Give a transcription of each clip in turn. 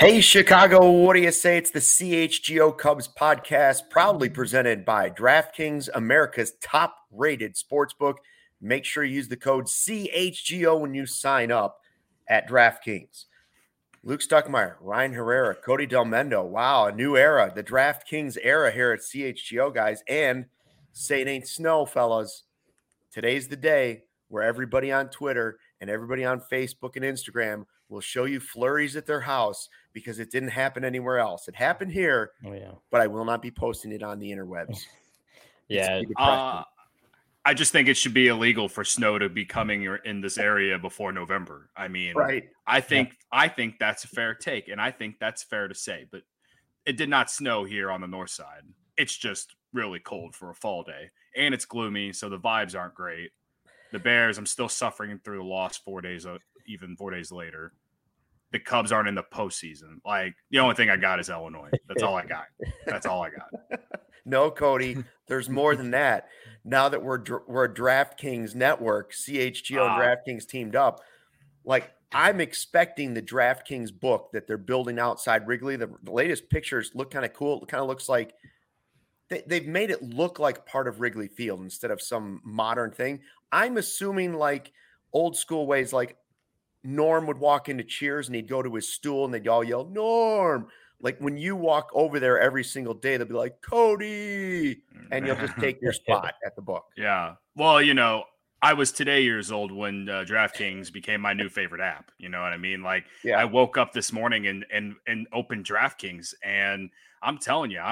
Hey, Chicago, what do you say? It's the CHGO Cubs podcast, proudly presented by DraftKings, America's top-rated sportsbook. Make sure you use the code CHGO when you sign up at DraftKings. Luke Stuckmeyer, Ryan Herrera, Cody Del Mendo. Wow, a new era, the DraftKings era here at CHGO, guys. And say it ain't snow, fellas. Today's the day where everybody on Twitter and everybody on Facebook and Instagram will show you flurries at their house because it didn't happen anywhere else. It happened here, but I will not be posting it on the interwebs. Yeah. I just think it should be illegal for snow to be coming in this area before November. I mean, right. I think that's a fair take, and I think that's fair to say. But it did not snow here on the north side. It's just really cold for a fall day, and it's gloomy, so the vibes aren't great. The Bears, I'm still suffering through the loss 4 days, even 4 days later. The Cubs aren't in the postseason. Like, the only thing I got is Illinois. That's all I got. That's all I got. No, Cody, there's more than that. Now that we're a DraftKings network, CHGO and DraftKings teamed up, like, I'm expecting the DraftKings book that they're building outside Wrigley. The latest pictures look kind of cool. It kind of looks like they've made it look like part of Wrigley Field instead of some modern thing. I'm assuming like old school ways, like Norm would walk into Cheers and he'd go to his stool and they'd all yell, Norm. Like when you walk over there every single day, they'll be like, Cody, and you'll just take your spot at the book. Yeah. Well, I was today years old when DraftKings became my new favorite app. You know what I mean? Like, yeah. I woke up this morning and opened DraftKings, and I'm telling you,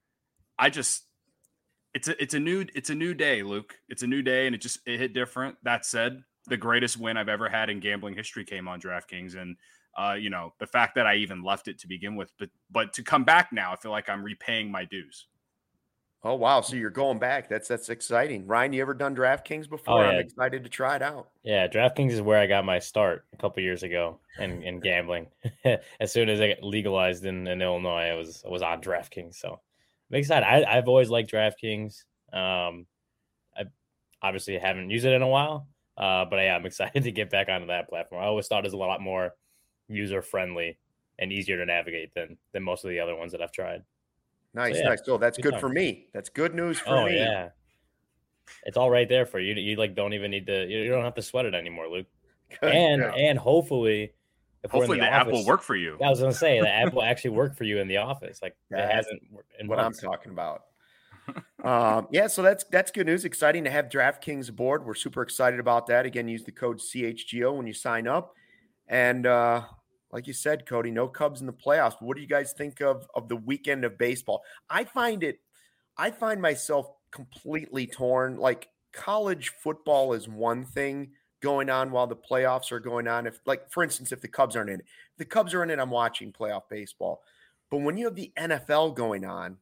it's a new day, Luke. It's a new day, and it hit different. That said, the greatest win I've ever had in gambling history came on DraftKings, and the fact that I even left it to begin with, but to come back now, I feel like I'm repaying my dues. Oh, wow. So you're going back. That's exciting. Ryan, you ever done DraftKings before? Oh, yeah. I'm excited to try it out. Yeah, DraftKings is where I got my start a couple years ago in gambling. As soon as I got legalized in Illinois, I was on DraftKings. So I'm excited. I've always liked DraftKings. I obviously haven't used it in a while, but yeah, I'm excited to get back onto that platform. I always thought it was a lot more user-friendly and easier to navigate than most of the other ones that I've tried. Nice. So that's good for me. That's good news for me. Yeah. It's all right there for you. You like don't even need to. You don't have to sweat it anymore, Luke. Good. And hopefully the app will work for you. I was gonna say the app will actually work for you in the office. Like it hasn't. What I'm talking about. So that's good news. Exciting to have DraftKings aboard. We're super excited about that. Again, use the code CHGO when you sign up. And like you said, Cody, no Cubs in the playoffs. What do you guys think of the weekend of baseball? I find myself completely torn. Like college football is one thing going on while the playoffs are going on. If, like, for instance, if the Cubs aren't in it, if the Cubs are in it, I'm watching playoff baseball. But when you have the NFL going on,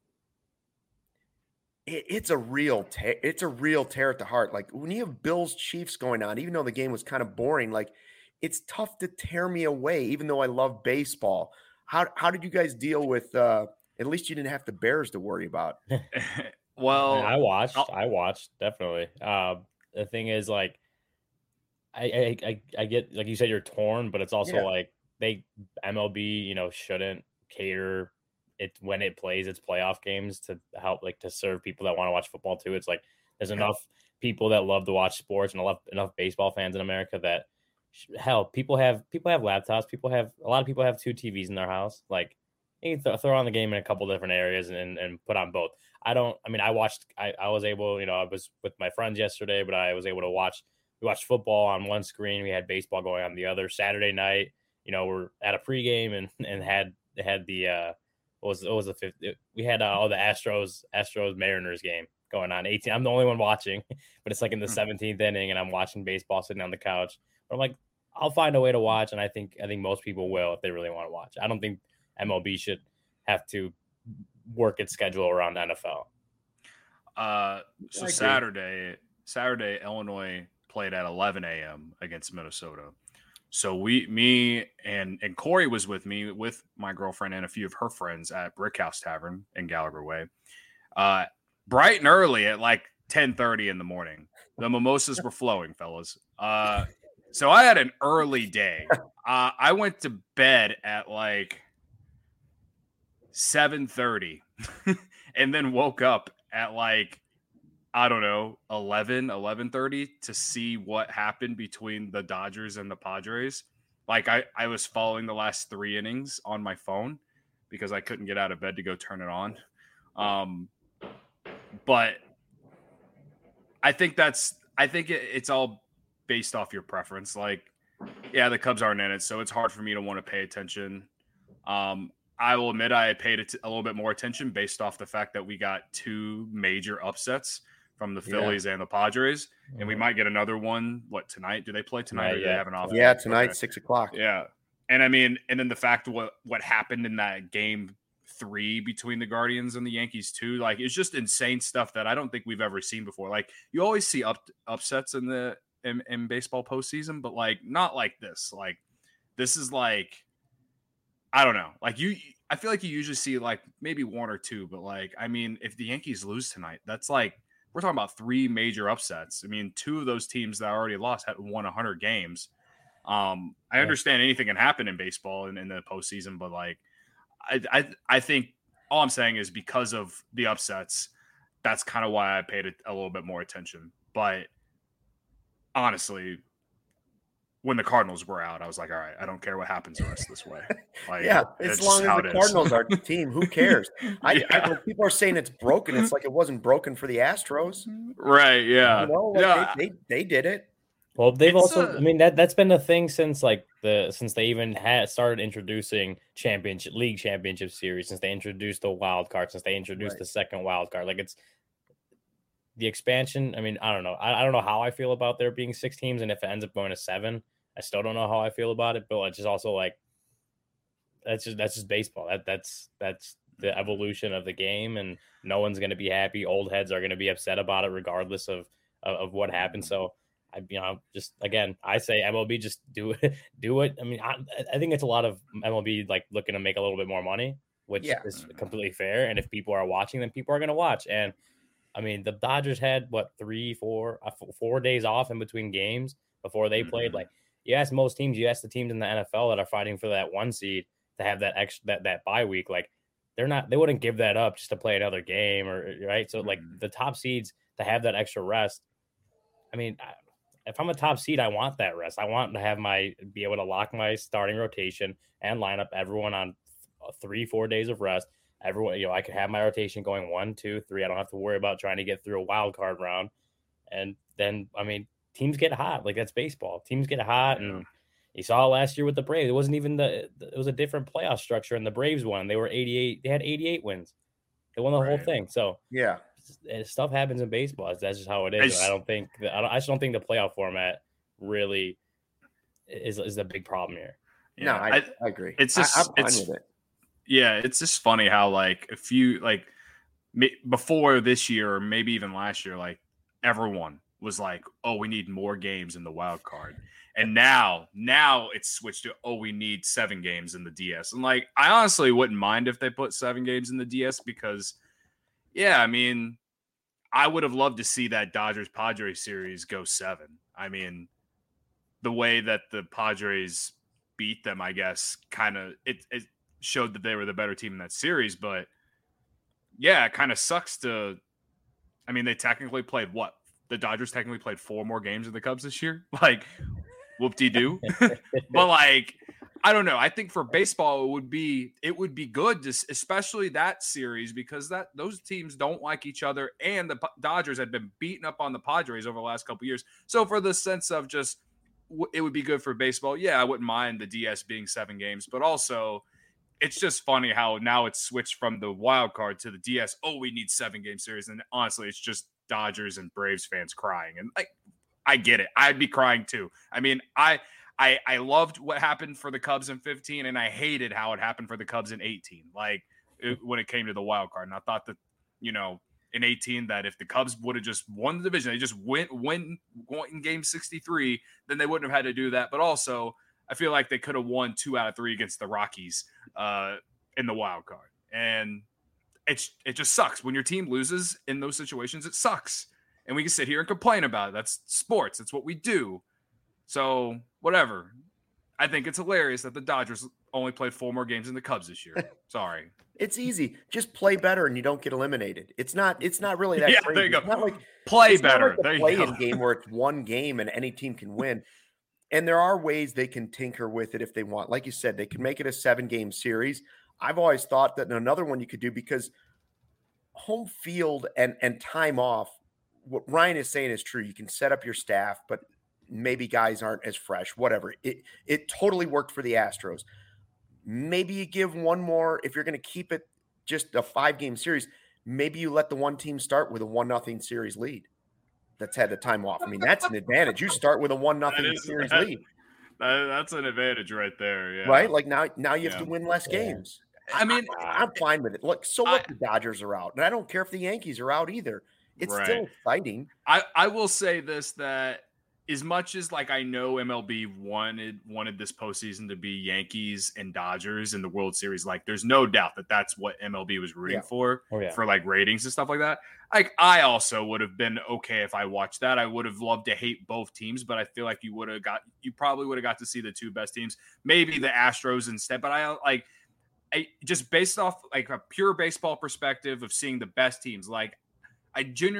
it's a real tear at the heart. Like when you have Bills Chiefs going on, even though the game was kind of boring, like it's tough to tear me away, even though I love baseball. How did you guys deal with? At least you didn't have the Bears to worry about. Well, I watched definitely. The thing is, like, I get, like you said, you're torn, but it's also like MLB, shouldn't cater it when it plays its playoff games to help, like, to serve people that want to watch football too. It's like there's enough people that love to watch sports and enough baseball fans in America that. Hell, people have laptops. A lot of people have 2 TVs in their house. Like, you can throw on the game in a couple different areas and put on both. I was able, I was with my friends yesterday, but I was able to we watched football on one screen. We had baseball going on the other. Saturday night, we're at a pregame and had the what was the fifth? We had all the Astros Mariners game going on. 18. I'm the only one watching, but it's like in the 17th inning, and I'm watching baseball sitting on the couch. But I'm like, I'll find a way to watch, and I think most people will if they really want to watch. I don't think MLB should have to work its schedule around NFL. So Saturday, Illinois played at 11 a.m. against Minnesota. So me and Corey was with me, with my girlfriend and a few of her friends at Brickhouse Tavern in Gallagher Way. Bright and early at like 10:30 in the morning. The mimosas were flowing, fellas. So I had an early day. I went to bed at like 7:30 and then woke up at like, I don't know, 11:30 to see what happened between the Dodgers and the Padres. Like I was following the last 3 innings on my phone because I couldn't get out of bed to go turn it on. But I think it's all based off your preference. Like, yeah, the Cubs aren't in it, so it's hard for me to want to pay attention. I will admit I paid a little bit more attention based off the fact that we got 2 major upsets from the Phillies and the Padres, and we might get another one. What, tonight? Do they play tonight? Or do they have an off? Yeah, tonight, 6:00. Yeah, and I mean, and then the fact what happened in that game 3 between the Guardians and the Yankees too, like it's just insane stuff that I don't think we've ever seen before. Like you always see upsets in baseball postseason, but like not like this. Like this is like, I don't know. Like I feel like you usually see like maybe 1 or 2, but like, I mean, if the Yankees lose tonight, that's like, we're talking about 3 major upsets. I mean, 2 of those teams that already lost had won 100 games. I understand anything can happen in baseball and in the postseason, but like, I think all I'm saying is because of the upsets, that's kind of why I paid a little bit more attention. But honestly, when the Cardinals were out, I was like, all right, I don't care what happens the rest of this way. Like, yeah, as long as the Cardinals are the team, who cares? I know people are saying it's broken. It's like it wasn't broken for the Astros. Right, yeah. You know, like they did it. Well, they've I mean, that's been the thing since since they even started introducing league championship series, since they introduced the wild card, since they introduced the second wild card. Like, it's the expansion. I mean, I don't know. I don't know how I feel about there being 6 teams, and if it ends up going to 7, I still don't know how I feel about it. But it's just also like that's just baseball. That's the evolution of the game, and no one's going to be happy. Old heads are going to be upset about it, regardless of what happens. So, just again, I say MLB, just do it. I mean, I think it's a lot of MLB like looking to make a little bit more money, which is completely fair. And if people are watching, then people are going to watch. And I mean, the Dodgers had 4 days off in between games before they played. Like, you ask most teams, you ask the teams in the NFL that are fighting for that 1 seed to have that extra that bye week. Like, they wouldn't give that up just to play another game, or right. So like the top seeds to have that extra rest. I mean, if I'm a top seed, I want that rest. I want to be able to lock my starting rotation and line up everyone on 3-4 days of rest. Everyone, I could have my rotation going 1, 2, 3. I don't have to worry about trying to get through a wild card round. And then, I mean, teams get hot. Like, that's baseball. Teams get hot, and you saw last year with the Braves. It wasn't even it was a different playoff structure, and the Braves won. They were 88. They had 88 wins. They won the whole thing. So yeah, stuff happens in baseball. That's just how it is. I just don't think the playoff format really is the big problem here. No, I agree. It's just I'm fine with it. Yeah, it's just funny how like if you like before this year or maybe even last year, like everyone was like, "Oh, we need more games in the wild card," and now it's switched to, "Oh, we need 7 games in the DS." And like, I honestly wouldn't mind if they put 7 games in the DS because, yeah, I mean, I would have loved to see that Dodgers-Padres series go 7. I mean, the way that the Padres beat them, I guess, kind of it showed that they were the better team in that series. But yeah, it kind of sucks to. I mean, they technically played what? The Dodgers technically played 4 more games than the Cubs this year. Like, whoop-de-doo. But like, I don't know. I think for baseball, it would be good to, especially that series, because those teams don't like each other, and the Dodgers had been beating up on the Padres over the last couple of years. So for the sense of just, it would be good for baseball. Yeah, I wouldn't mind the DS being 7 games, but also it's just funny how now it's switched from the wild card to the DS. Oh, we need 7-game series, and honestly, it's just Dodgers and Braves fans crying, and like, I get it. I'd be crying too. I mean, I loved what happened for the Cubs in 15, and I hated how it happened for the Cubs in 18. Like when it came to the wild card, and I thought that in 18 that if the Cubs would have just won the division, they just went in game 63, then they wouldn't have had to do that. But also, I feel like they could have won 2 out of 3 against the Rockies in the wild card, and it just sucks when your team loses in those situations. It sucks, and we can sit here and complain about it. That's sports. That's what we do. So whatever. I think it's hilarious that the Dodgers only played 4 more games than the Cubs this year. Sorry. It's easy. Just play better and you don't get eliminated. It's not really that crazy. There you go. It's not like play better. Not like the play-in game where it's one game and any team can win. And there are ways they can tinker with it if they want. Like you said, they can make it a 7-game series. I've always thought that another one you could do, because home field and time off, what Ryan is saying is true. You can set up your staff, but maybe guys aren't as fresh, whatever. It totally worked for the Astros. Maybe you give one more, if you're going to keep it just a 5-game series, maybe you let the one team start with a 1-0 series lead that's had the time off. I mean, that's an advantage. You start with a 1-0 series lead. That's an advantage right there. Yeah. Right? Like now you have to win less games. I mean, I'm fine with it. Look, what the Dodgers are out. And I don't care if the Yankees are out either. It's still exciting. I will say this, that as much as like I know MLB wanted this postseason to be Yankees and Dodgers in the World Series, like there's no doubt that that's what MLB was rooting for like ratings and stuff like that. Like I also would have been okay if I watched that. I would have loved to hate both teams, but I feel like you probably would have got to see the 2 best teams, maybe the Astros instead. But I just based off like a pure baseball perspective of seeing the best teams, like I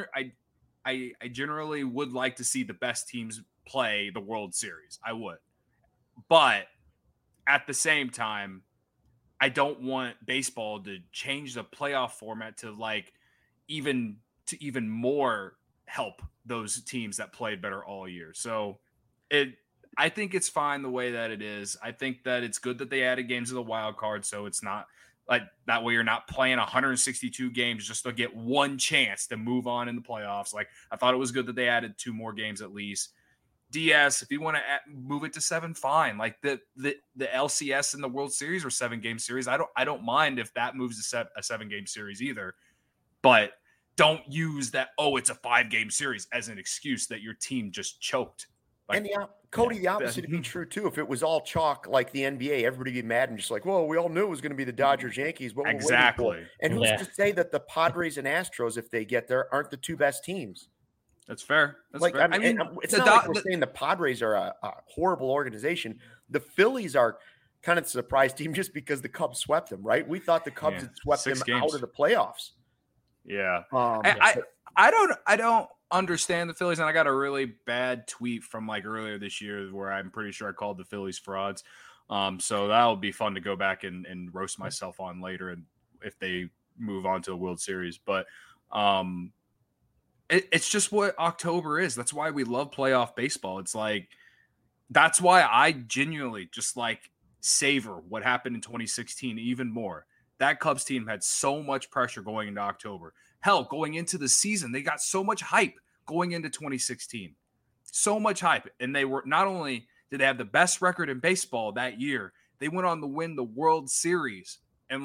generally would like to see the best teams play the World Series. I would. But at the same time, I don't want baseball to change the playoff format to even more help those teams that played better all year. So I think it's fine the way that it is. I think that it's good that they added games to the wild card, so it's not like that way you're not playing 162 games just to get one chance to move on in the playoffs. Like I thought it was good that they added 2 more games at least. DS, if you want to move it to 7, fine. Like the LCS in the World Series or 7-game series, I don't mind if that moves to a 7-game series either. But don't use that, it's a 5-game series as an excuse that your team just choked. Like, and Cody, the opposite would be true too. If it was all chalk like the NBA, everybody would be mad and just like, well, we all knew it was going to be the Dodgers, Yankees. What exactly. And who's to say that the Padres and Astros, if they get there, aren't the 2 best teams? That's fair. Fair. I mean, it's not like we're saying the Padres are a horrible organization. The Phillies are kind of a surprise team just because the Cubs swept them, right? We thought the Cubs had swept them out of the playoffs. Yeah. I don't understand the Phillies, and I got a really bad tweet from like earlier this year where I'm pretty sure I called the Phillies frauds. So that'll be fun to go back and roast myself on later, and if they move on to a World Series. But it's just what October is. That's why we love playoff baseball. It's like that's why I genuinely just like savor what happened in 2016 even more. That Cubs team had so much pressure going into October. Hell, going into the season, they got so much hype going into 2016. So much hype. And they were not only did they have the best record in baseball that year, they went on to win the World Series. And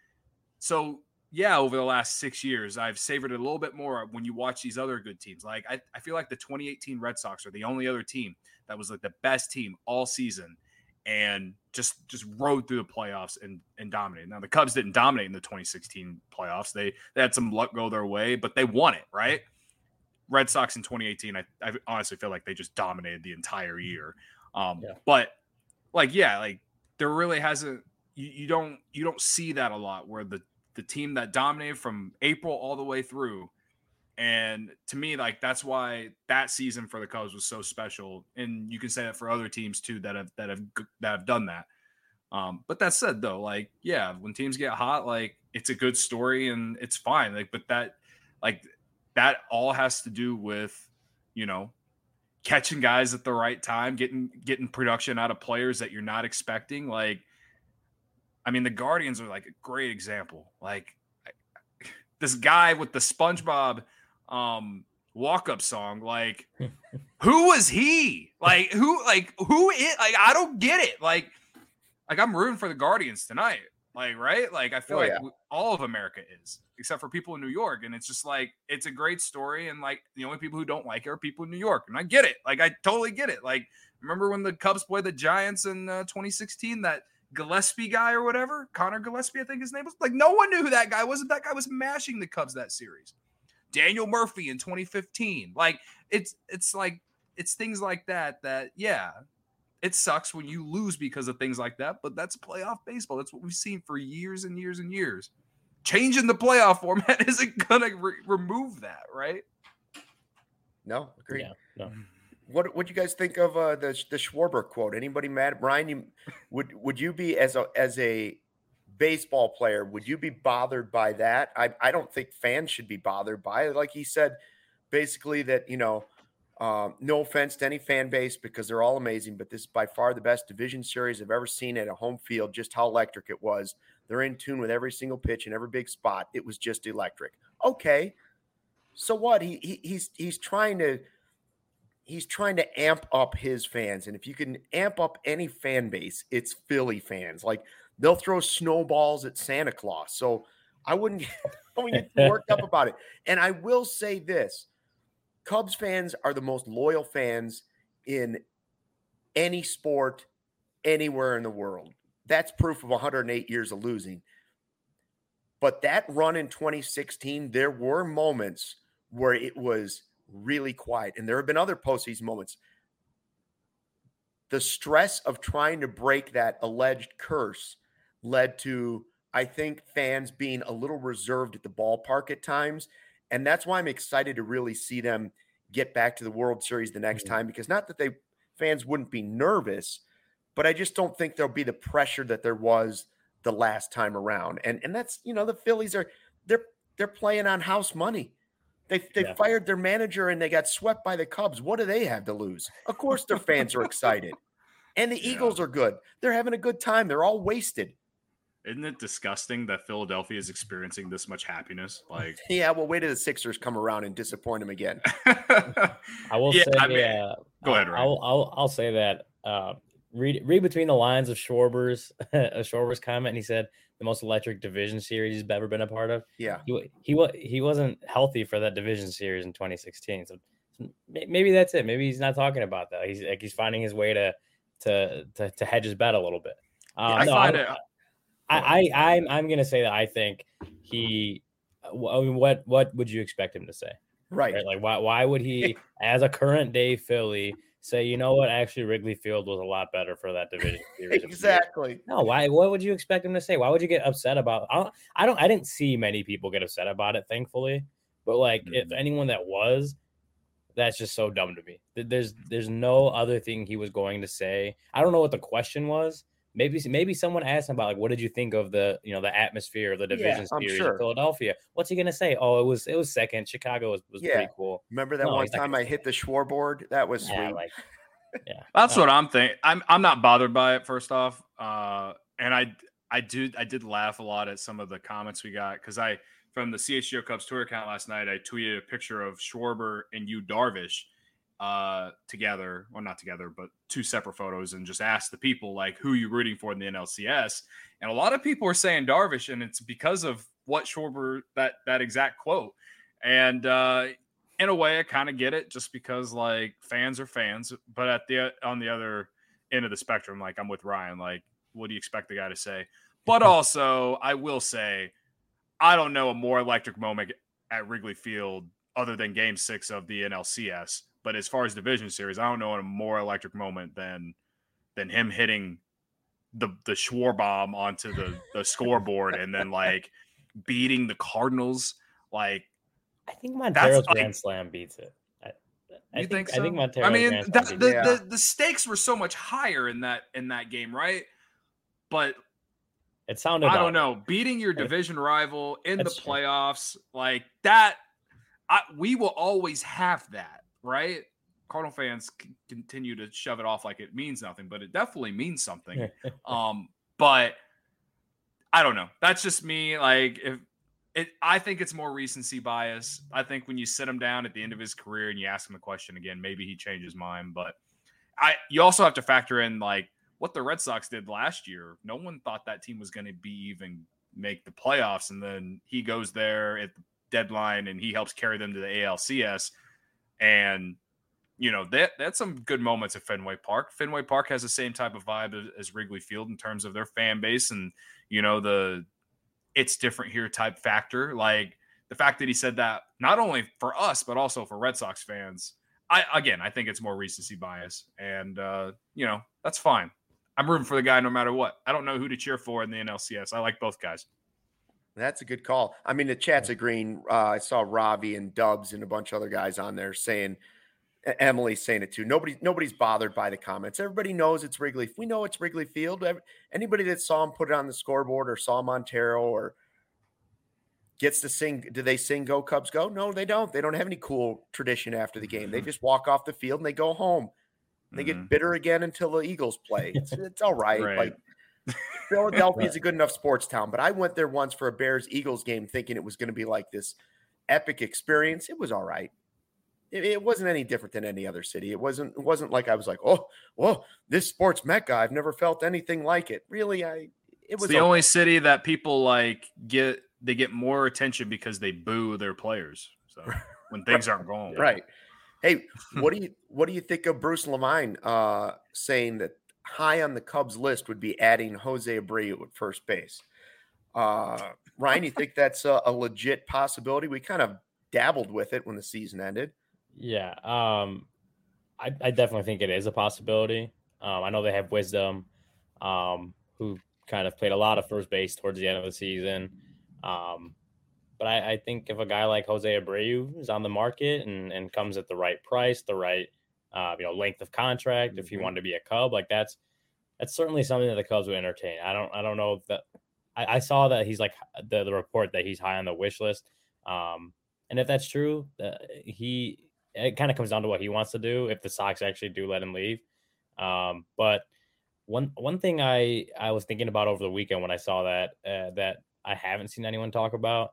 over the last 6 years, I've savored it a little bit more when you watch these other good teams. Like I feel like the 2018 Red Sox are the only other team that was like the best team all season and just rode through the playoffs and dominated. Now, the Cubs didn't dominate in the 2016 playoffs. They had some luck go their way, but they won it, right? Red Sox in 2018, I honestly feel like they just dominated the entire year. But there really hasn't you don't see that a lot where the team that dominated from April all the way through. And to me, like that's why that season for the Cubs was so special. And you can say that for other teams too that have done that. But that said, though, like when teams get hot, like it's a good story and it's fine. Like, but that all has to do with catching guys at the right time, getting production out of players that you're not expecting. Like, I mean, the Guardians are like a great example. Like this guy with the SpongeBob walk-up song, like who was he? Like who is, like I don't get it. Like I'm rooting for the Guardians tonight. Like, right? Like I feel all of America is, except for people in New York. And it's just like it's a great story. And like the only people who don't like it are people in New York. And I get it. Like I totally get it. Like remember when the Cubs played the Giants in 2016, that Gillespie guy or whatever, Connor Gillespie, I think his name was. Like no one knew who that guy was. That guy was mashing the Cubs that series. Daniel Murphy in 2015. Like it's like it's things like that it sucks when you lose because of things like that, but that's playoff baseball. That's what we've seen for years and years and years. Changing the playoff format isn't going to remove that, right? No, agreed. Yeah, no. What do you guys think of the Schwarber quote? Anybody mad? Brian, would you be as a baseball player, would you be bothered by that? I don't think fans should be bothered by it. Like he said, basically that, no offense to any fan base because they're all amazing, but this is by far the best division series I've ever seen at a home field, just how electric it was. They're in tune with every single pitch and every big spot. It was just electric. Okay. So what? He's trying to amp up his fans. And if you can amp up any fan base, it's Philly fans. Like they'll throw snowballs at Santa Claus. So I wouldn't get worked up about it. And I will say this, Cubs fans are the most loyal fans in any sport anywhere in the world. That's proof of 108 years of losing. But that run in 2016, there were moments where it was really quiet. And there have been other postseason moments. The stress of trying to break that alleged curse led to, I think, fans being a little reserved at the ballpark at times. And that's why I'm excited to really see them get back to the World Series the next time, because not that fans wouldn't be nervous, but I just don't think there'll be the pressure that there was the last time around. And that's, the Phillies they're playing on house money. They fired their manager and they got swept by the Cubs. What do they have to lose? Of course their fans are excited. And the Eagles are good. They're having a good time. They're all wasted. Isn't it disgusting that Philadelphia is experiencing this much happiness? Like, yeah, well, wait till the Sixers come around and disappoint them again. I will say, go ahead, Ryan. I'll say that. Read between the lines of Schwarber's comment, and he said the most electric division series he's ever been a part of. Yeah, he wasn't healthy for that division series in 2016, so maybe that's it. Maybe he's not talking about that. He's finding his way to hedge his bet a little bit. I'm gonna say that I think he. I mean, what would you expect him to say? Right? Like why would he, as a current day Philly, say, you know what, actually Wrigley Field was a lot better for that division series? Exactly. No, why? What would you expect him to say? Why would you get upset about? I didn't see many people get upset about it, thankfully. But like, if anyone that was, that's just so dumb to me. There's no other thing he was going to say. I don't know what the question was. Maybe someone asked him about, like, what did you think of the atmosphere of the division series in Philadelphia? What's he gonna say? Oh, it was second. Chicago was pretty cool. Remember that one time I hit the Schwarboard? That was sweet. That's what I'm thinking. I'm not bothered by it, first off. And I did laugh a lot at some of the comments we got, because from the CHGO Cubs Twitter account last night, I tweeted a picture of Schwarber and Yu Darvish together, or not together, but two separate photos, and just asked the people, like, who are you rooting for in the NLCS? And a lot of people are saying Darvish, and it's because of what Schwarber, that exact quote. And in a way, I kind of get it, just because, like, fans are fans. But on the other end of the spectrum, like, I'm with Ryan. Like, what do you expect the guy to say? But also, I will say, I don't know a more electric moment at Wrigley Field other than Game 6 of the NLCS. But as far as division series, I don't know a more electric moment than him hitting the Schwarbomb onto the scoreboard and then, like, beating the Cardinals. Like, I think Montero's Grand Slam beats it. I think so? I think Montero. I mean, the stakes were so much higher in that game, right? But it sounded. I don't know. Beating your division rival in the playoffs, like that, we will always have that, right? Cardinal fans continue to shove it off like it means nothing, but it definitely means something. But I don't know. That's just me. Like, I think it's more recency bias. I think when you sit him down at the end of his career and you ask him the question again, maybe he changes his mind. But you also have to factor in, like, what the Red Sox did last year. No one thought that team was going to even make the playoffs. And then he goes there at the deadline and he helps carry them to the ALCS. And, you know, that's some good moments at Fenway Park. Fenway Park has the same type of vibe as Wrigley Field in terms of their fan base and, you know, the it's different here type factor. Like, the fact that he said that not only for us, but also for Red Sox fans, I think it's more recency bias, and that's fine. I'm rooting for the guy no matter what. I don't know who to cheer for in the NLCS. I like both guys. That's a good call. I mean, the chat's agreeing. I saw Ravi and Dubs and a bunch of other guys on there saying, Emily's saying it too. Nobody's bothered by the comments. Everybody knows it's Wrigley. We know it's Wrigley Field. Anybody that saw him put it on the scoreboard or saw Montero or gets to sing, do they sing "Go Cubs Go"? No, they don't. They don't have any cool tradition after the game. They just walk off the field and they go home. They get bitter again until the Eagles play. It's all right. Right. Like Philadelphia is a good enough sports town, but I went there once for a Bears-Eagles game thinking it was going to be like this epic experience. It was all right. It wasn't any different than any other city. It wasn't like I was like, oh, this sports mecca. I've never felt anything like it. Really, it was the only city that people like get more attention because they boo their players. So when things aren't going right. Hey, what do you think of Bruce Levine saying that high on the Cubs list would be adding Jose Abreu at first base? Ryan, you think that's a legit possibility? We kind of dabbled with it when the season ended. Yeah, I definitely think it is a possibility. I know they have Wisdom, who kind of played a lot of first base towards the end of the season. But I think if a guy like Jose Abreu is on the market and comes at the right price, the right length of contract, if he wanted to be a Cub, like that's certainly something that the Cubs would entertain. I don't know if that. I saw that he's like the report that he's high on the wish list. And if that's true, it kind of comes down to what he wants to do if the Sox actually do let him leave. But one thing I was thinking about over the weekend when I saw that that I haven't seen anyone talk about,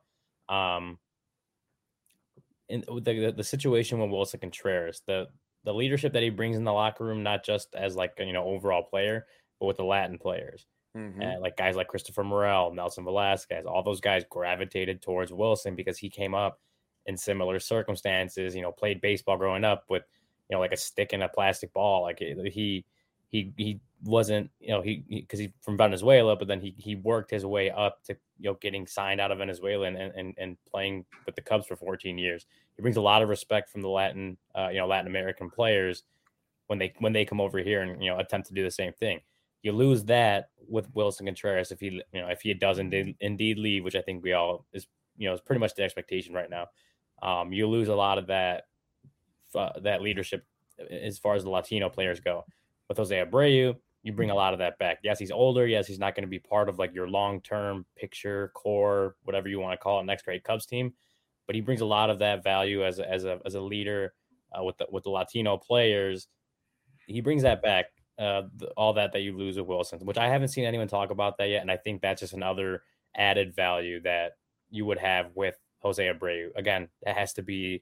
in the situation with Wilson Contreras, the leadership that he brings in the locker room, not just as like overall player, but with the Latin players. Like guys like Christopher Morel, Nelson Velasquez, all those guys gravitated towards Wilson because he came up in similar circumstances, played baseball growing up with, like a stick and a plastic ball. Like he wasn't, because he's from Venezuela, but then he worked his way up to, getting signed out of Venezuela and playing with the Cubs for 14 years. He brings a lot of respect from the Latin American players when they come over here and, attempt to do the same thing. You lose that with Wilson Contreras if he does indeed leave, which I think we all is pretty much the expectation right now. You lose a lot of that leadership as far as the Latino players go. With Jose Abreu, you bring a lot of that back. Yes, he's older. Yes, he's not going to be part of like your long-term picture, core, whatever you want to call it, next great Cubs team. But he brings a lot of that value as a leader with the Latino players. He brings that back. All that you lose with Wilson, which I haven't seen anyone talk about that yet, and I think that's just another added value that you would have with Jose Abreu. Again, it has to be,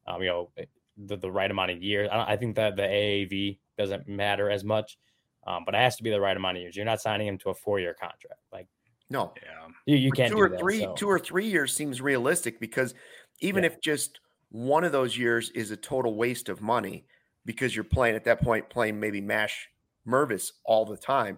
the right amount of years. I think that the AAV doesn't matter as much, but it has to be the right amount of years. You're not signing him to a 4-year contract. Like, no, you can't do that. 2 or 3 years seems realistic because even if just one of those years is a total waste of money because you're playing maybe MASH Mervis all the time,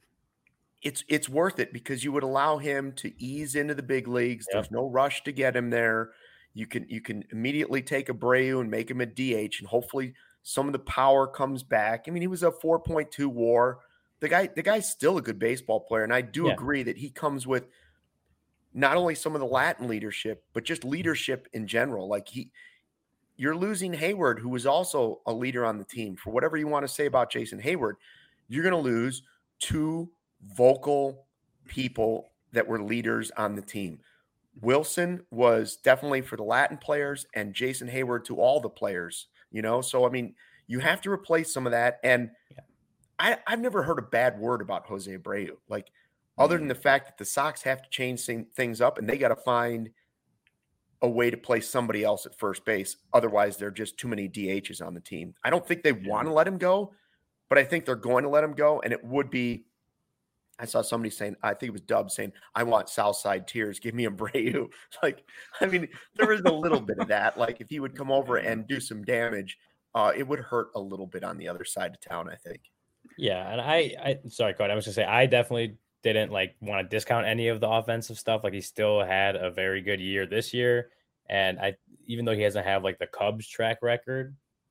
it's worth it because you would allow him to ease into the big leagues. There's no rush to get him there. You can immediately take Abreu and make him a DH, and hopefully some of the power comes back. I mean, he was a 4.2 WAR. The guy's still a good baseball player, and I do agree that he comes with not only some of the Latin leadership, but just leadership in general. Like you're losing Hayward, who was also a leader on the team. For whatever you want to say about Jason Hayward, you're going to lose 2 vocal people that were leaders on the team. Wilson was definitely for the Latin players and Jason Hayward to all the players, So, I mean, you have to replace some of that. And I've never heard a bad word about Jose Abreu, like other than the fact that the Sox have to change things up and they got to find a way to play somebody else at first base. Otherwise, there are just too many DHs on the team. I don't think they want to let him go, but I think they're going to let him go. And it would be, I saw somebody saying, I think it was Dub saying, I want Southside tears. Give me Abreu. Like, I mean, there is a little bit of that. Like if he would come over and do some damage, it would hurt a little bit on the other side of town, I think. Yeah. And I sorry, Cody, I was going to say, I definitely didn't like want to discount any of the offensive stuff. Like he still had a very good year this year. And even though he doesn't have like the Cubs track record,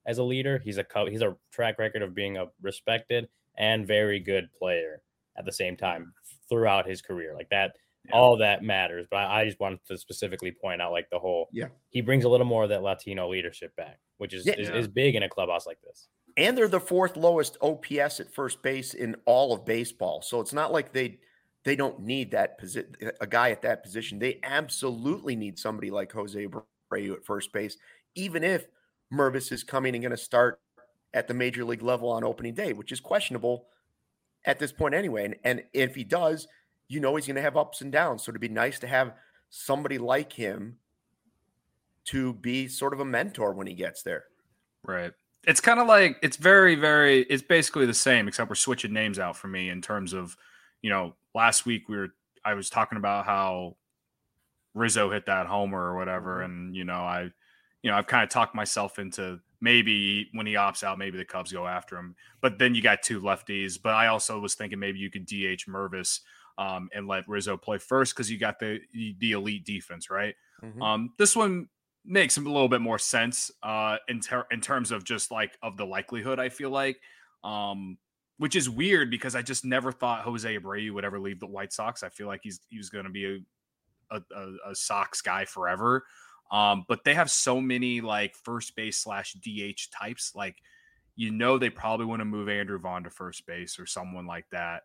as a leader. He's a track record of being a respected and very good player at the same time throughout his career. Like that, all that matters. But I just wanted to specifically point out like the whole, he brings a little more of that Latino leadership back, which is big in a clubhouse like this. And they're the 4th lowest OPS at first base in all of baseball. So it's not like they don't need a guy at that position. They absolutely need somebody like Jose Abreu at first base, even if Mervis is coming and going to start at the major league level on opening day, which is questionable at this point anyway. And if he does, he's going to have ups and downs. So it'd be nice to have somebody like him to be sort of a mentor when he gets there. Right. It's kind of like, it's very, very, it's basically the same, except we're switching names out for me in terms of, last week I was talking about how Rizzo hit that homer or whatever. And, I've kind of talked myself into maybe when he opts out, maybe the Cubs go after him, but then you got 2 lefties. But I also was thinking maybe you could DH Mervis and let Rizzo play first, because you got the elite defense, right? Mm-hmm. This one makes a little bit more sense in terms of just like of the likelihood, I feel like, which is weird because I just never thought Jose Abreu would ever leave the White Sox. I feel like he was going to be a Sox guy forever. But they have so many like first base / DH types. Like, they probably want to move Andrew Vaughn to first base or someone like that.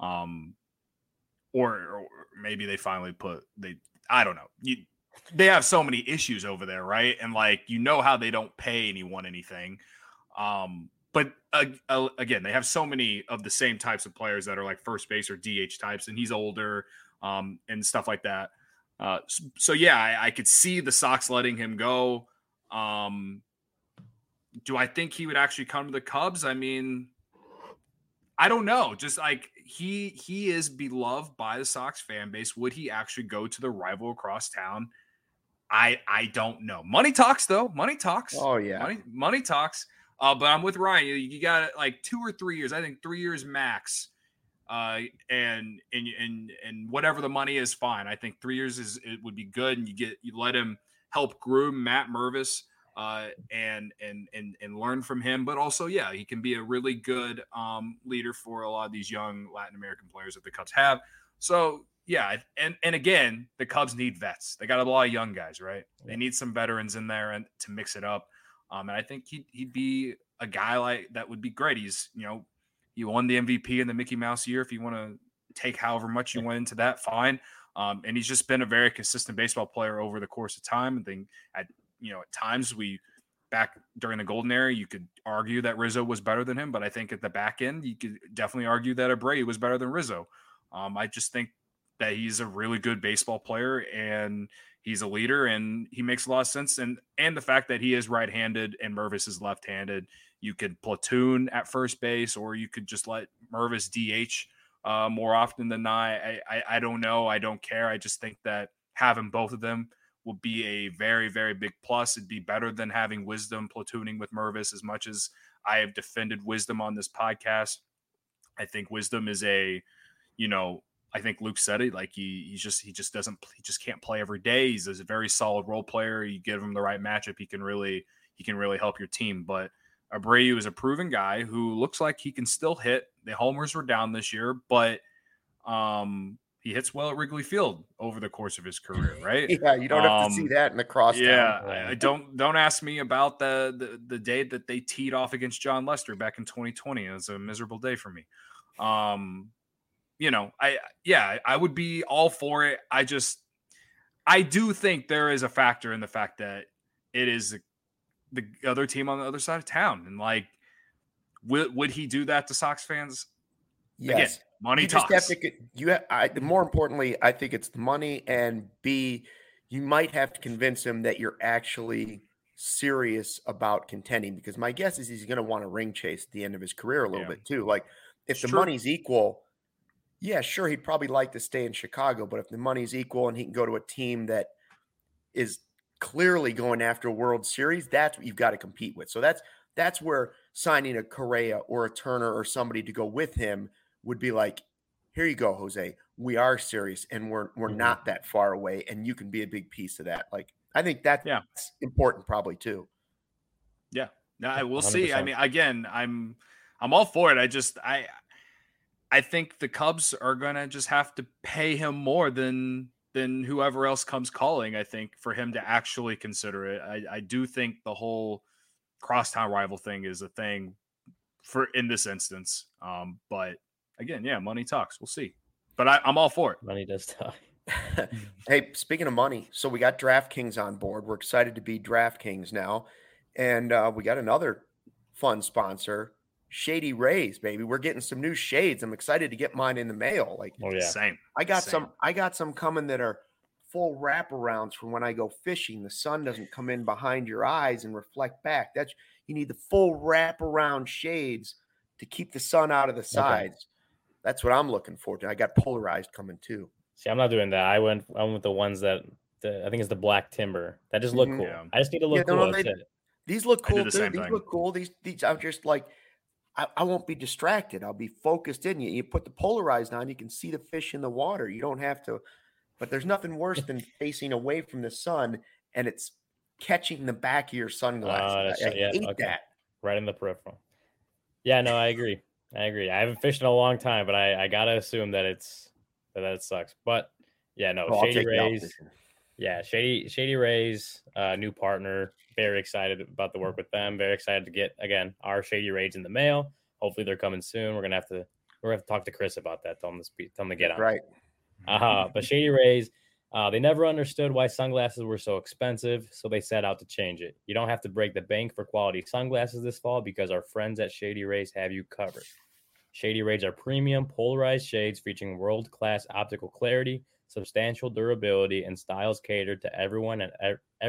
Or maybe they finally I don't know. They have so many issues over there, right? And like, how they don't pay anyone anything. But again, they have so many of the same types of players that are like first base or DH types, and he's older and stuff like that. So yeah, I could see the Sox letting him go. Do I think he would actually come to the Cubs? I mean, I don't know. Just like he is beloved by the Sox fan base. Would he actually go to the rival across town? I don't know. Money talks though. Money talks. Oh yeah. Money talks. But I'm with Ryan. You got like 2 or 3 years. I think 3 years max. And whatever the money is, fine. I think 3 years it would be good, and you let him help groom Matt Mervis, and learn from him. But also, yeah, he can be a really good leader for a lot of these young Latin American players that the Cubs have. So yeah, and again, the Cubs need vets. They got a lot of young guys, right? They need some veterans in there and to mix it up. And I think he'd be a guy like that would be great. He's he won the MVP in the Mickey Mouse year. If you want to take however much you went into that, fine. And he's just been a very consistent baseball player over the course of time. I think at times back during the golden era, you could argue that Rizzo was better than him, but I think at the back end, you could definitely argue that Abreu was better than Rizzo. I just think that he's a really good baseball player, and he's a leader, and he makes a lot of sense. And the fact that he is right-handed and Mervis is left-handed, you could platoon at first base, or you could just let Mervis DH more often than not. I don't know. I don't care. I just think that having both of them will be a very, very big plus. It'd be better than having Wisdom platooning with Mervis. As much as I have defended Wisdom on this podcast, I think Wisdom is I think Luke said it, like he just can't play every day. He's a very solid role player. You give him the right matchup, he can really help your team. But Abreu is a proven guy who looks like he can still hit. The homers were down this year, but he hits well at Wrigley Field over the course of his career, right? Yeah, you don't have to see that in the crosstown. Yeah, don't ask me about the day that they teed off against John Lester back in 2020. It was a miserable day for me. I would be all for it. I do think there is a factor in the fact that it is the other team on the other side of town. And like, would he do that to Sox fans? Yes. Again, money talks. More importantly, I think it's the money, and B, you might have to convince him that you're actually serious about contending, because my guess is he's going to want to ring chase at the end of his career a little bit too. Like if the money's equal, yeah, sure, he'd probably like to stay in Chicago, but if the money's equal and he can go to a team that is clearly going after a World Series, that's what you've got to compete with. So that's where signing a Correa or a Turner or somebody to go with him would be like, here you go, Jose. We are serious, and we're not that far away, and you can be a big piece of that. Like, I think that's important probably too. Yeah. No, we'll 100%. see. I mean, again, I'm all for it. I think the Cubs are gonna just have to pay him more than whoever else comes calling. I think for him to actually consider it. I do think the whole crosstown rival thing is a thing for in this instance. But again, yeah, money talks. We'll see. But I'm all for it. Money does talk. Hey, speaking of money, so we got DraftKings on board. We're excited to be DraftKings now. And we got another fun sponsor, Shady Rays, baby. We're getting some new shades. I'm excited to get mine in the mail. Like, Oh yeah. Same. I got some coming that are full wraparounds for when I go fishing. The sun doesn't come in behind your eyes and reflect back. You need the full wraparound shades to keep the sun out of the sides. That's what I'm looking for. I got polarized coming too. See, I'm not doing that. I went with the ones that I think it's the black timber. That just look cool. Yeah. I just need to look cool. That's it. These look cool the too. same These thing. look cool. These I'm just like I won't be distracted. I'll be focused in. You put the polarized on, you can see the fish in the water. You don't have to. But there's nothing worse than facing away from the sun and it's catching the back of your sunglasses. I hate that. Right in the peripheral. Yeah, no, I agree. I haven't fished in a long time, but I gotta assume that it sucks. But yeah, no, Shady Rays. Yeah, Shady Rays, new partner. Very excited about the work with them. Very excited to get again our Shady Rays in the mail. Hopefully they're coming soon. We're gonna have to talk to Chris about that. Tell him to get on. Right. But Shady Rays, they never understood why sunglasses were so expensive, so they set out to change it. You don't have to break the bank for quality sunglasses this fall because our friends at Shady Rays have you covered. Shady Rays are premium polarized shades featuring world-class optical clarity, substantial durability, and styles catered to everyone and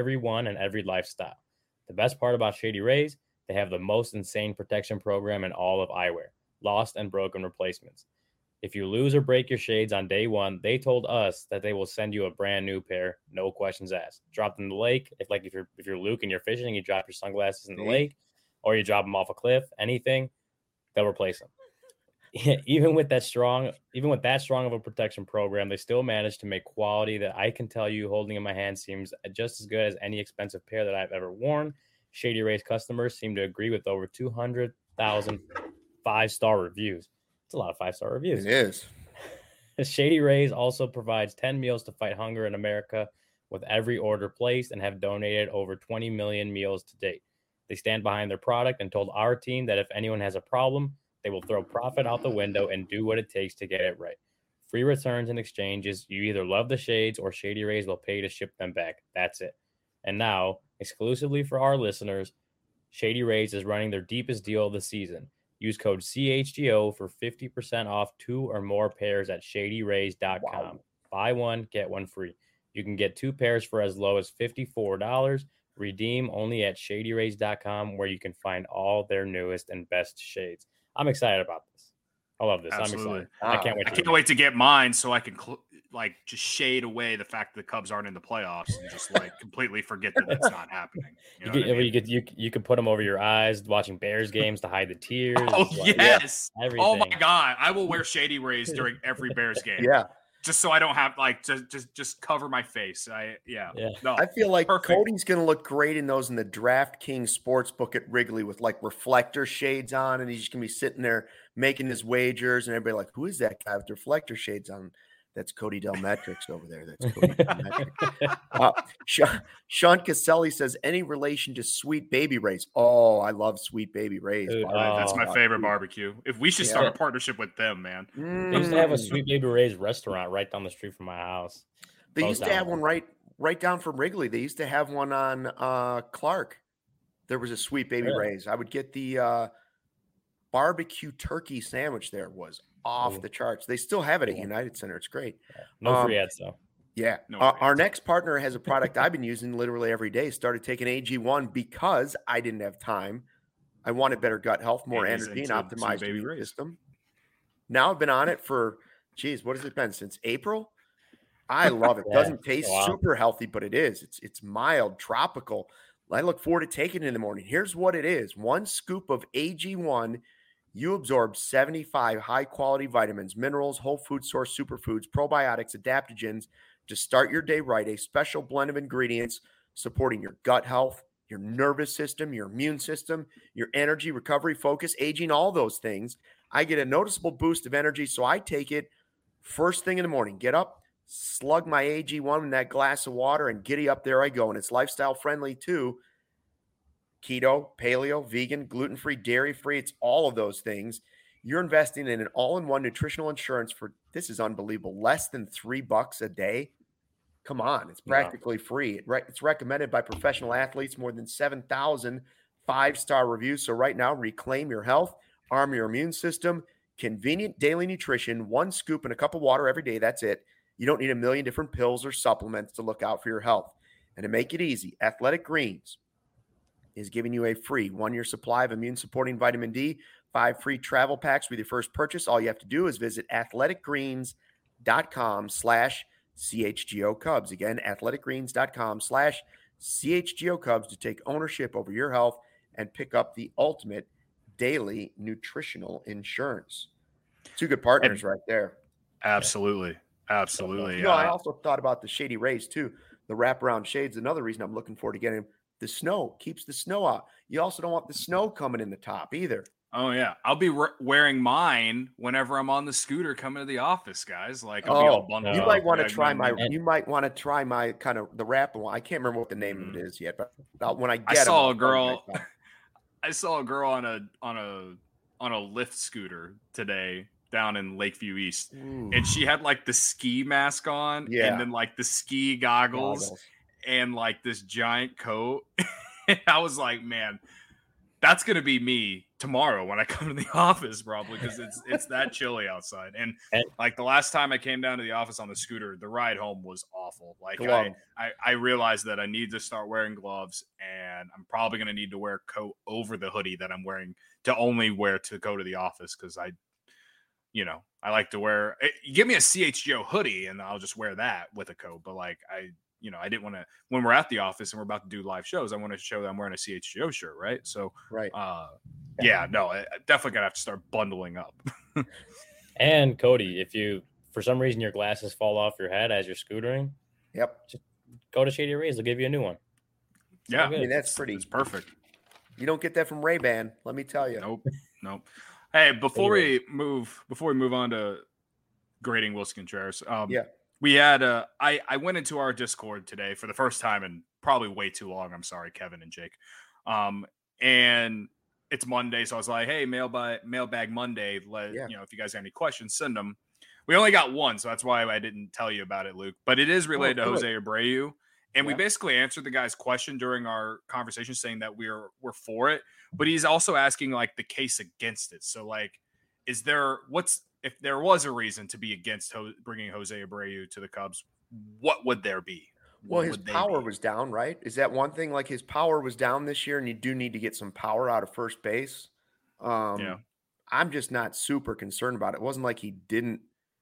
every lifestyle. The best part about Shady Rays, they have the most insane protection program in all of eyewear, lost and broken replacements. If you lose or break your shades on day one, they told us that they will send you a brand new pair, no questions asked. Dropped in the lake, if you're Luke and you're fishing, you drop your sunglasses in the lake, or you drop them off a cliff, anything, they'll replace them. Even with that strong of a protection program, they still managed to make quality that I can tell you holding in my hand seems just as good as any expensive pair that I've ever worn. Shady Rays customers seem to agree with over 200,000 5-star reviews. It's a lot of 5-star reviews. It is. Shady Rays also provides 10 meals to fight hunger in America with every order placed and have donated over 20 million meals to date. They stand behind their product and told our team that if anyone has a problem, they will throw profit out the window and do what it takes to get it right. Free returns and exchanges. You either love the shades or Shady Rays will pay to ship them back. That's it. And now, exclusively for our listeners, Shady Rays is running their deepest deal of the season. Use code CHGO for 50% off 2 or more pairs at shadyrays.com. Wow. Buy one, get one free. You can get 2 pairs for as low as $54. Redeem only at shadyrays.com, where you can find all their newest and best shades. I'm excited about this. I love this. Absolutely. I'm excited. I can't wait to get mine so I can just shade away the fact that the Cubs aren't in the playoffs and just completely forget that that's not happening. You could put them over your eyes watching Bears games to hide the tears. Oh yes. Everything. Oh my God. I will wear Shady Rays during every Bears game. Yeah. Just so I don't have just cover my face. No, I feel like perfect. Cody's going to look great in those in the DraftKings Sportsbook at Wrigley with reflector shades on, and he's just going to be sitting there making his wagers, and everybody like, who is that guy with reflector shades on? That's Cody Delmetrics over there. That's Cody Delmetrics. Sean Caselli says, any relation to Sweet Baby Rays? Oh, I love Sweet Baby Rays. That's my favorite barbecue. If we should start a partnership with them, man. They used to have a Sweet Baby Rays restaurant right down the street from my house. They used to have one right down from Wrigley. They used to have one on Clark. There was a Sweet Baby Rays. I would get the barbecue turkey sandwich there was off the charts. They still have it at United Center. It's great. No free ads though. Yeah. Our next partner has a product I've been using literally every day. Started taking AG1 because I didn't have time. I wanted better gut health, more energy, and optimized immune system. Now I've been on it for, what has it been? Since April? I love it. Doesn't taste super healthy, but it is. It's mild, tropical. I look forward to taking it in the morning. Here's what it is. 1 scoop of AG1, you absorb 75 high-quality vitamins, minerals, whole food source superfoods, probiotics, adaptogens to start your day right. A special blend of ingredients supporting your gut health, your nervous system, your immune system, your energy, recovery, focus, aging, all those things. I get a noticeable boost of energy. So I take it first thing in the morning, get up, slug my AG1 in that glass of water, and giddy up, there I go. And it's lifestyle friendly too. Keto, paleo, vegan, gluten-free, dairy-free. It's all of those things. You're investing in an all-in-one nutritional insurance for, this is unbelievable, less than $3 a day. Come on, it's practically free. It's recommended by professional athletes, more than 7,000 5-star reviews. So right now, reclaim your health, arm your immune system, convenient daily nutrition, 1 scoop and a cup of water every day. That's it. You don't need a million different pills or supplements to look out for your health. And to make it easy, Athletic Greens is giving you a free 1-year supply of immune-supporting vitamin D, 5 free travel packs with your first purchase. All you have to do is visit athleticgreens.com/CHGO Cubs. Again, athleticgreens.com/CHGO Cubs to take ownership over your health and pick up the ultimate daily nutritional insurance. 2 good partners right there. Absolutely. Absolutely. I also thought about the Shady Rays too. The wraparound shades, another reason I'm looking forward to getting them. The snow keeps the snow out. You also don't want the snow coming in the top either. Oh, yeah. I'll be wearing mine whenever I'm on the scooter coming to the office, guys. Like, I'll be all bundled you up. might want to try my. You might want to try my kind of the wrap one. I can't remember what the name of it is yet, but when I get, I saw a girl on a Lyft scooter today down in Lakeview East, and she had like the ski mask on, and then like the ski goggles. And like this giant coat. And I was like, man, that's going to be me tomorrow when I come to the office, probably, because it's that chilly outside. And like the last time I came down to the office on the scooter, the ride home was awful. Like I realized that I need to start wearing gloves, and I'm probably going to need to wear a coat over the hoodie that I'm wearing to only wear to go to the office. Cause I like to wear, give me a CHGO hoodie and I'll just wear that with a coat. But like, I didn't want to, when we're at the office and we're about to do live shows, I want to show that I'm wearing a CHGO shirt. Right. So, I definitely gotta have to start bundling up. And Cody, if you, for some reason, your glasses fall off your head as you're scootering, just go to Shady Rays. They'll give you a new one. Yeah. I mean, it's perfect. You don't get that from Ray-Ban. Let me tell you. Nope. Hey, before we move on to grading Wilson Contreras, we had I went into our Discord today for the first time in probably way too long. I'm sorry, Kevin and Jake. And it's Monday, so I was like, hey, mailbag Monday. If you guys have any questions, send them. We only got one, so that's why I didn't tell you about it, Luke. But it is related to Jose Abreu. And we basically answered the guy's question during our conversation saying that we're for it. But he's also asking like the case against it. So like, if there was a reason to be against bringing Jose Abreu to the Cubs, what would there be? Well, his power was down, right? Is that one thing? Like his power was down this year, and you do need to get some power out of first base. I'm just not super concerned about it. It wasn't like he didn't.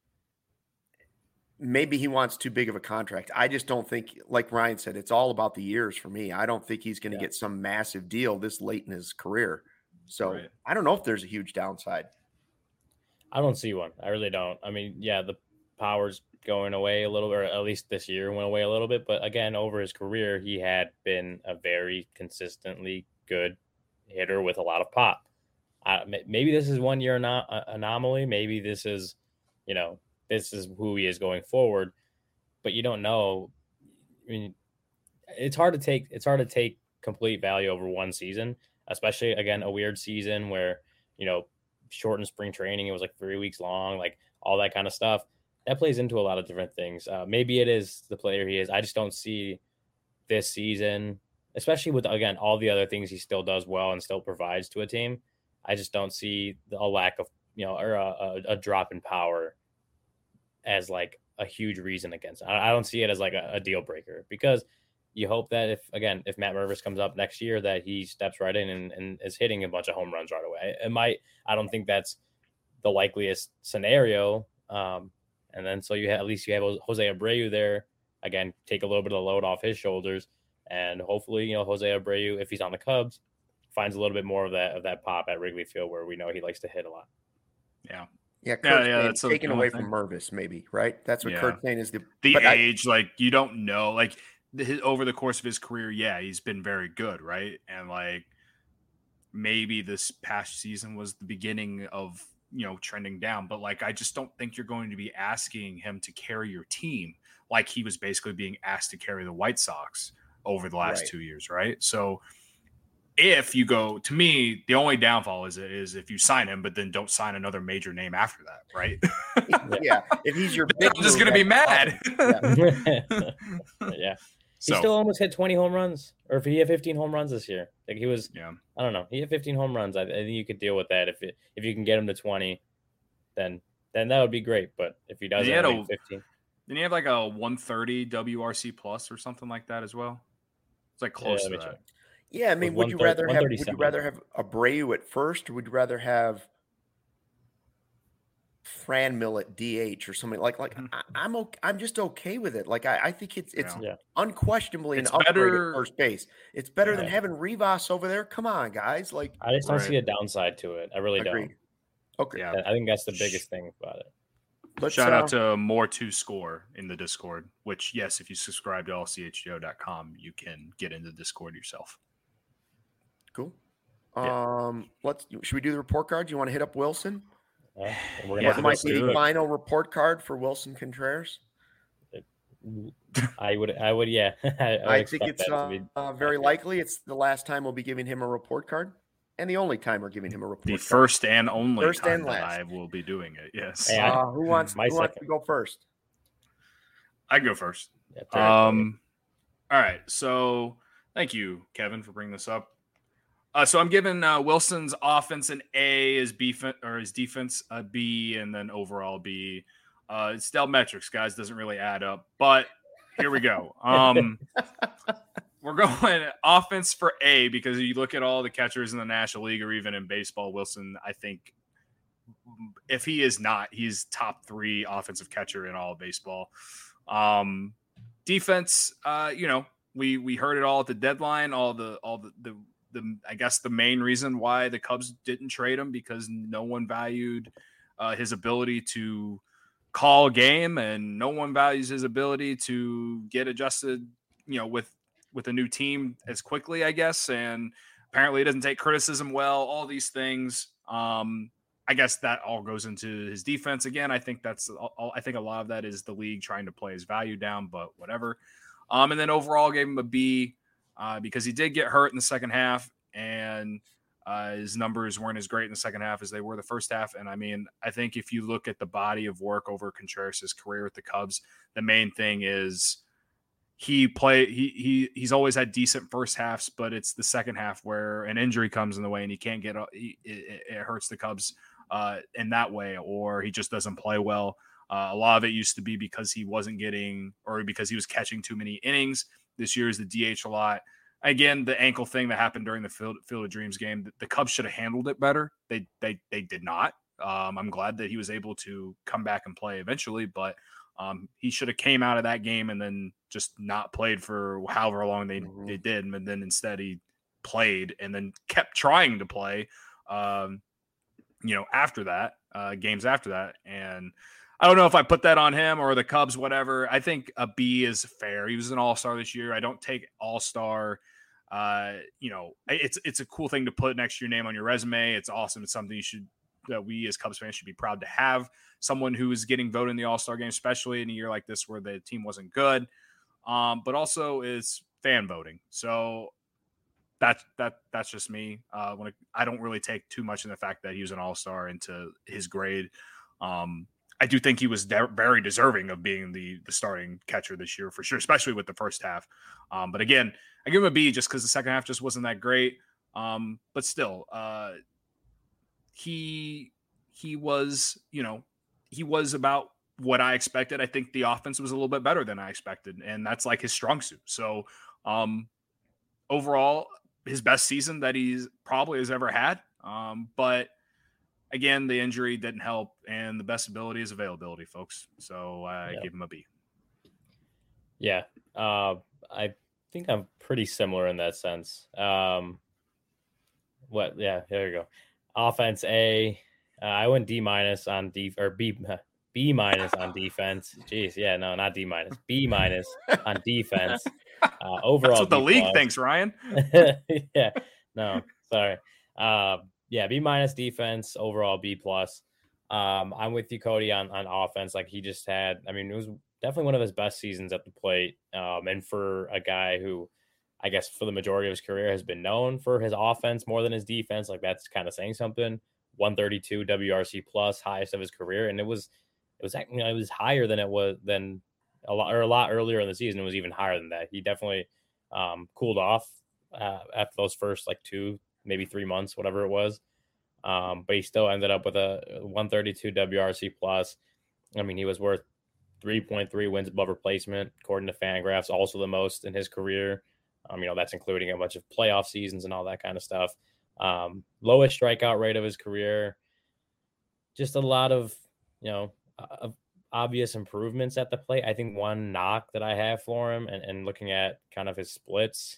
Maybe he wants too big of a contract. I just don't think, like Ryan said, it's all about the years for me. I don't think he's going to get some massive deal this late in his career. So I don't know if there's a huge downside. I don't see one. I really don't. I mean, the power's going away a little, or at least this year went away a little bit. But again, over his career, he had been a very consistently good hitter with a lot of pop. Maybe this is 1 year anomaly. Maybe this is, this is who he is going forward. But you don't know. I mean, it's hard to take complete value over one season, especially again a weird season where shortened spring training. It was like 3 weeks long, like all that kind of stuff. That plays into a lot of different things. Maybe it is the player he is. I just don't see this season, especially with, again, all the other things he still does well and still provides to a team. I just don't see a lack of, or a drop in power as like a huge reason against it. I don't see it as like a deal breaker, because you hope that if Matt Mervis comes up next year, that he steps right in and is hitting a bunch of home runs right away. I don't think that's the likeliest scenario. And then so at least you have Jose Abreu there, again, take a little bit of the load off his shoulders, and hopefully, Jose Abreu, if he's on the Cubs, finds a little bit more of that pop at Wrigley Field, where we know he likes to hit a lot. Yeah. That's taken away from Mervis, maybe, right? That's what Kurt's saying is the age. Like, you don't know. Like, over the course of his career, yeah, he's been very good, right? And like maybe this past season was the beginning of, trending down, but like I just don't think you're going to be asking him to carry your team like he was basically being asked to carry the White Sox over the last 2 years, right? So if you go, to me, the only downfall is if you sign him, but then don't sign another major name after that, right? Yeah. If he's your big, I'm just going to be mad. Yeah. He still almost hit 20 home runs, or if he had 15 home runs this year, like he was, I don't know, he had 15 home runs. I think you could deal with that. If you can get him to 20, then that would be great. But if he doesn't have 15, then you have like a 130 WRC plus or something like that as well. It's like close to that. Yeah, I mean, would you rather have Abreu at first, or would you rather have Franmil at DH or something like I'm just okay with it. Like I think it's unquestionably an upgrade at first base. It's better than having Rivas over there. Come on, guys. Like I just don't see a downside to it. I really don't. Okay. Yeah, I think that's the biggest thing about it. Shout out to More to Score in the Discord, which yes, if you subscribe to allchgo.com, you can get into Discord yourself. Cool. Should we do the report card? Do you want to hit up Wilson? What might be the final report card for Wilson Contreras? I would, yeah. I think it's very likely it's the last time we'll be giving him a report card, and the only time we're giving him a report card. The first and only time that I will be doing it, yes. Who wants to go first? I go first. All right, so thank you, Kevin, for bringing this up. So I'm giving Wilson's offense an A, his defense a B, and then overall B. It's Dell metrics, guys. Doesn't really add up, but here we go. We're going offense for A because you look at all the catchers in the National League or even in baseball, Wilson, I think if he is not, he's top 3 offensive catcher in all of baseball. Defense, we heard it all at the deadline, all the I guess the main reason why the Cubs didn't trade him because no one valued his ability to call a game, and no one values his ability to get adjusted, with a new team as quickly, I guess. And apparently it doesn't take criticism well, all these things. I guess that all goes into his defense. Again, I think I think a lot of that is the league trying to play his value down, but whatever. And then overall gave him a B. Because he did get hurt in the second half, and his numbers weren't as great in the second half as they were the first half. And I mean, I think if you look at the body of work over Contreras' career with the Cubs, the main thing is he's always had decent first halves, but it's the second half where an injury comes in the way and he can't get it hurts the Cubs in that way, or he just doesn't play well. A lot of it used to be because he wasn't getting, or because he was catching too many innings. This year is the DH a lot. Again, the ankle thing that happened during the Field of Dreams game, the Cubs should have handled it better. They did not. I'm glad that he was able to come back and play eventually, but he should have came out of that game and then just not played for however long they did. And then instead he played and then kept trying to play, after that, games after that. And I don't know if I put that on him or the Cubs, whatever. I think a B is fair. He was an all-star this year. I don't take all-star. It's a cool thing to put next to your name on your resume. It's awesome. It's something that we as Cubs fans should be proud to have. Someone who is getting voted in the all-star game, especially in a year like this where the team wasn't good. But also is fan voting. So that's just me. I don't really take too much in the fact that he was an all-star into his grade. I do think he was very deserving of being the starting catcher this year for sure, especially with the first half. But again, I give him a B just because the second half just wasn't that great. But still, he was about what I expected. I think the offense was a little bit better than I expected, and that's like his strong suit. So overall, his best season that he's probably has ever had. But again, the injury didn't help, and the best ability is availability, folks. So I give him a B. Yeah, I think I'm pretty similar in that sense. Yeah, there you go. Offense A. I went D- on B- on defense. Jeez, yeah, no, not D-. B- on defense. Overall, that's what the B+. league thinks, Ryan. Yeah, no, sorry. Yeah, B- defense, overall B+. I'm with you, Cody, on offense. Like he just had, I mean, it was definitely one of his best seasons at the plate. And for a guy who, I guess, for the majority of his career has been known for his offense more than his defense, like that's kind of saying something. 132 WRC plus, highest of his career, and it was higher than it was than a lot earlier in the season. It was even higher than that. He definitely cooled off after those first like 2, maybe 3 months, whatever it was. But he still ended up with a 132 WRC plus. I mean, he was worth 3.3 wins above replacement, according to Fangraphs, also the most in his career. That's including a bunch of playoff seasons and all that kind of stuff. Lowest strikeout rate of his career. Just a lot of, obvious improvements at the plate. I think one knock that I have for him and looking at kind of his splits,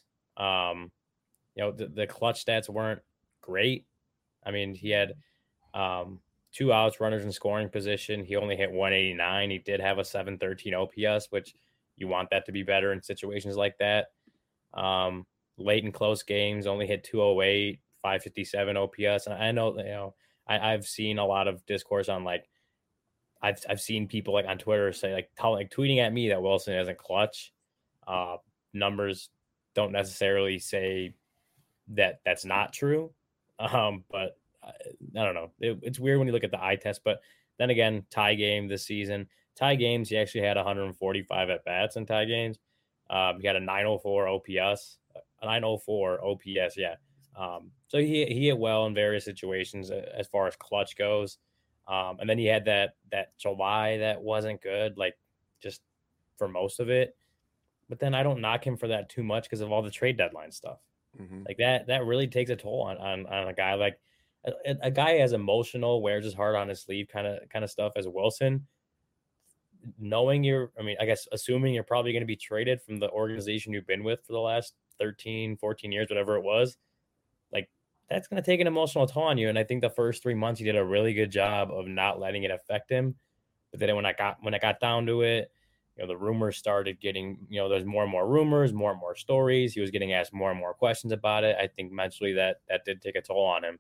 the clutch stats weren't great. I mean, he had 2 outs, runners in scoring position. He only hit 189. He did have a 713 OPS, which you want that to be better in situations like that. Late in close games, only hit 208, 557 OPS. And I know, I've seen a lot of discourse on like, I've seen people like on Twitter say like tweeting at me that Wilson isn't clutch. Numbers don't necessarily say that that's not true. But I don't know. It's weird when you look at the eye test, but then again, tie game this season, tie games, he actually had 145 at bats in tie games. He had a 904 OPS, Yeah. So he hit well in various situations as far as clutch goes. And then he had that July that wasn't good, like just for most of it. But then I don't knock him for that too much because of all the trade deadline stuff. Mm-hmm. Like that really takes a toll on a guy like a guy as emotional, wears his heart on his sleeve kind of stuff as Wilson. Knowing assuming you're probably going to be traded from the organization you've been with for the last 13, 14 years, whatever it was, like that's going to take an emotional toll on you. And I think the first 3 months he did a really good job of not letting it affect him. But then when I got down to it, the rumors started getting, there's more and more rumors, more and more stories. He was getting asked more and more questions about it. I think mentally that did take a toll on him.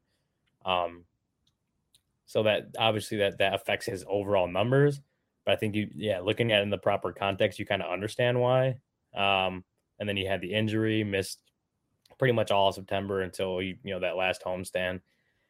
So that obviously that affects his overall numbers. But I think looking at it in the proper context, you kind of understand why. And then you had the injury, missed pretty much all of September until that last homestand.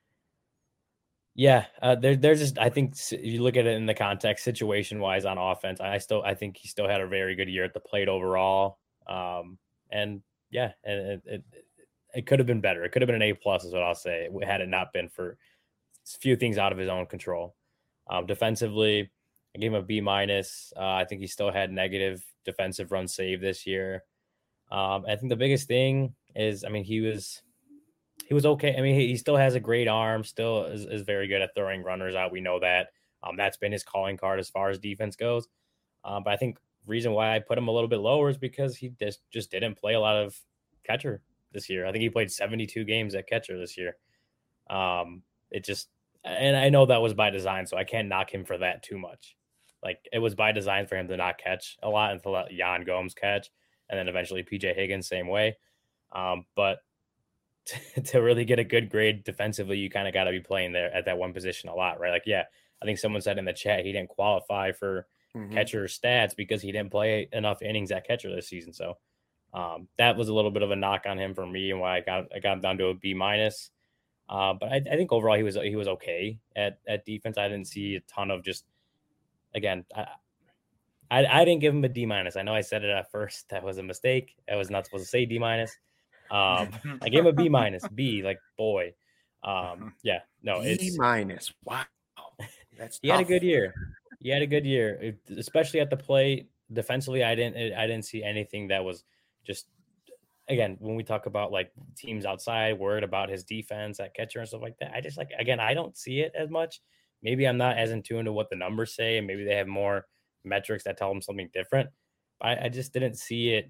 Yeah, there's just, I think you look at it in the context situation wise on offense. I think he still had a very good year at the plate overall. And yeah, and it could have been better. It could have been an A+ is what I'll say, had it not been for a few things out of his own control. Defensively, I gave him a B-. I think he still had negative defensive run save this year. I think the biggest thing is, he was okay. He still has a great arm, still is very good at throwing runners out. We know that. That's been his calling card as far as defense goes. But I think reason why I put him a little bit lower is because he just didn't play a lot of catcher this year. I think he played 72 games at catcher this year. And I know that was by design, so I can't knock him for that too much. Like it was by design for him to not catch a lot and to let Yan Gomes catch, and then eventually PJ Higgins same way. But to really get a good grade defensively, you kind of got to be playing there at that one position a lot, right? Like, yeah, I think someone said in the chat he didn't qualify for catcher stats because he didn't play enough innings at catcher this season. So that was a little bit of a knock on him for me, and why I got him down to a B-. But I think overall he was okay at defense. I didn't see a ton of just, again, I didn't give him a D-. I know I said it at first. That was a mistake. I was not supposed to say D-. I gave him a B-. B, like boy. Yeah, no, it's B-. Wow, that's he tough. Had a good year. He had a good year, especially at the plate. Defensively, I didn't see anything that was just, again, when we talk about like teams outside worried about his defense at catcher and stuff like that, I just I don't see it as much. Maybe I'm not as in tune to what the numbers say, and maybe they have more metrics that tell them something different. But I just didn't see it.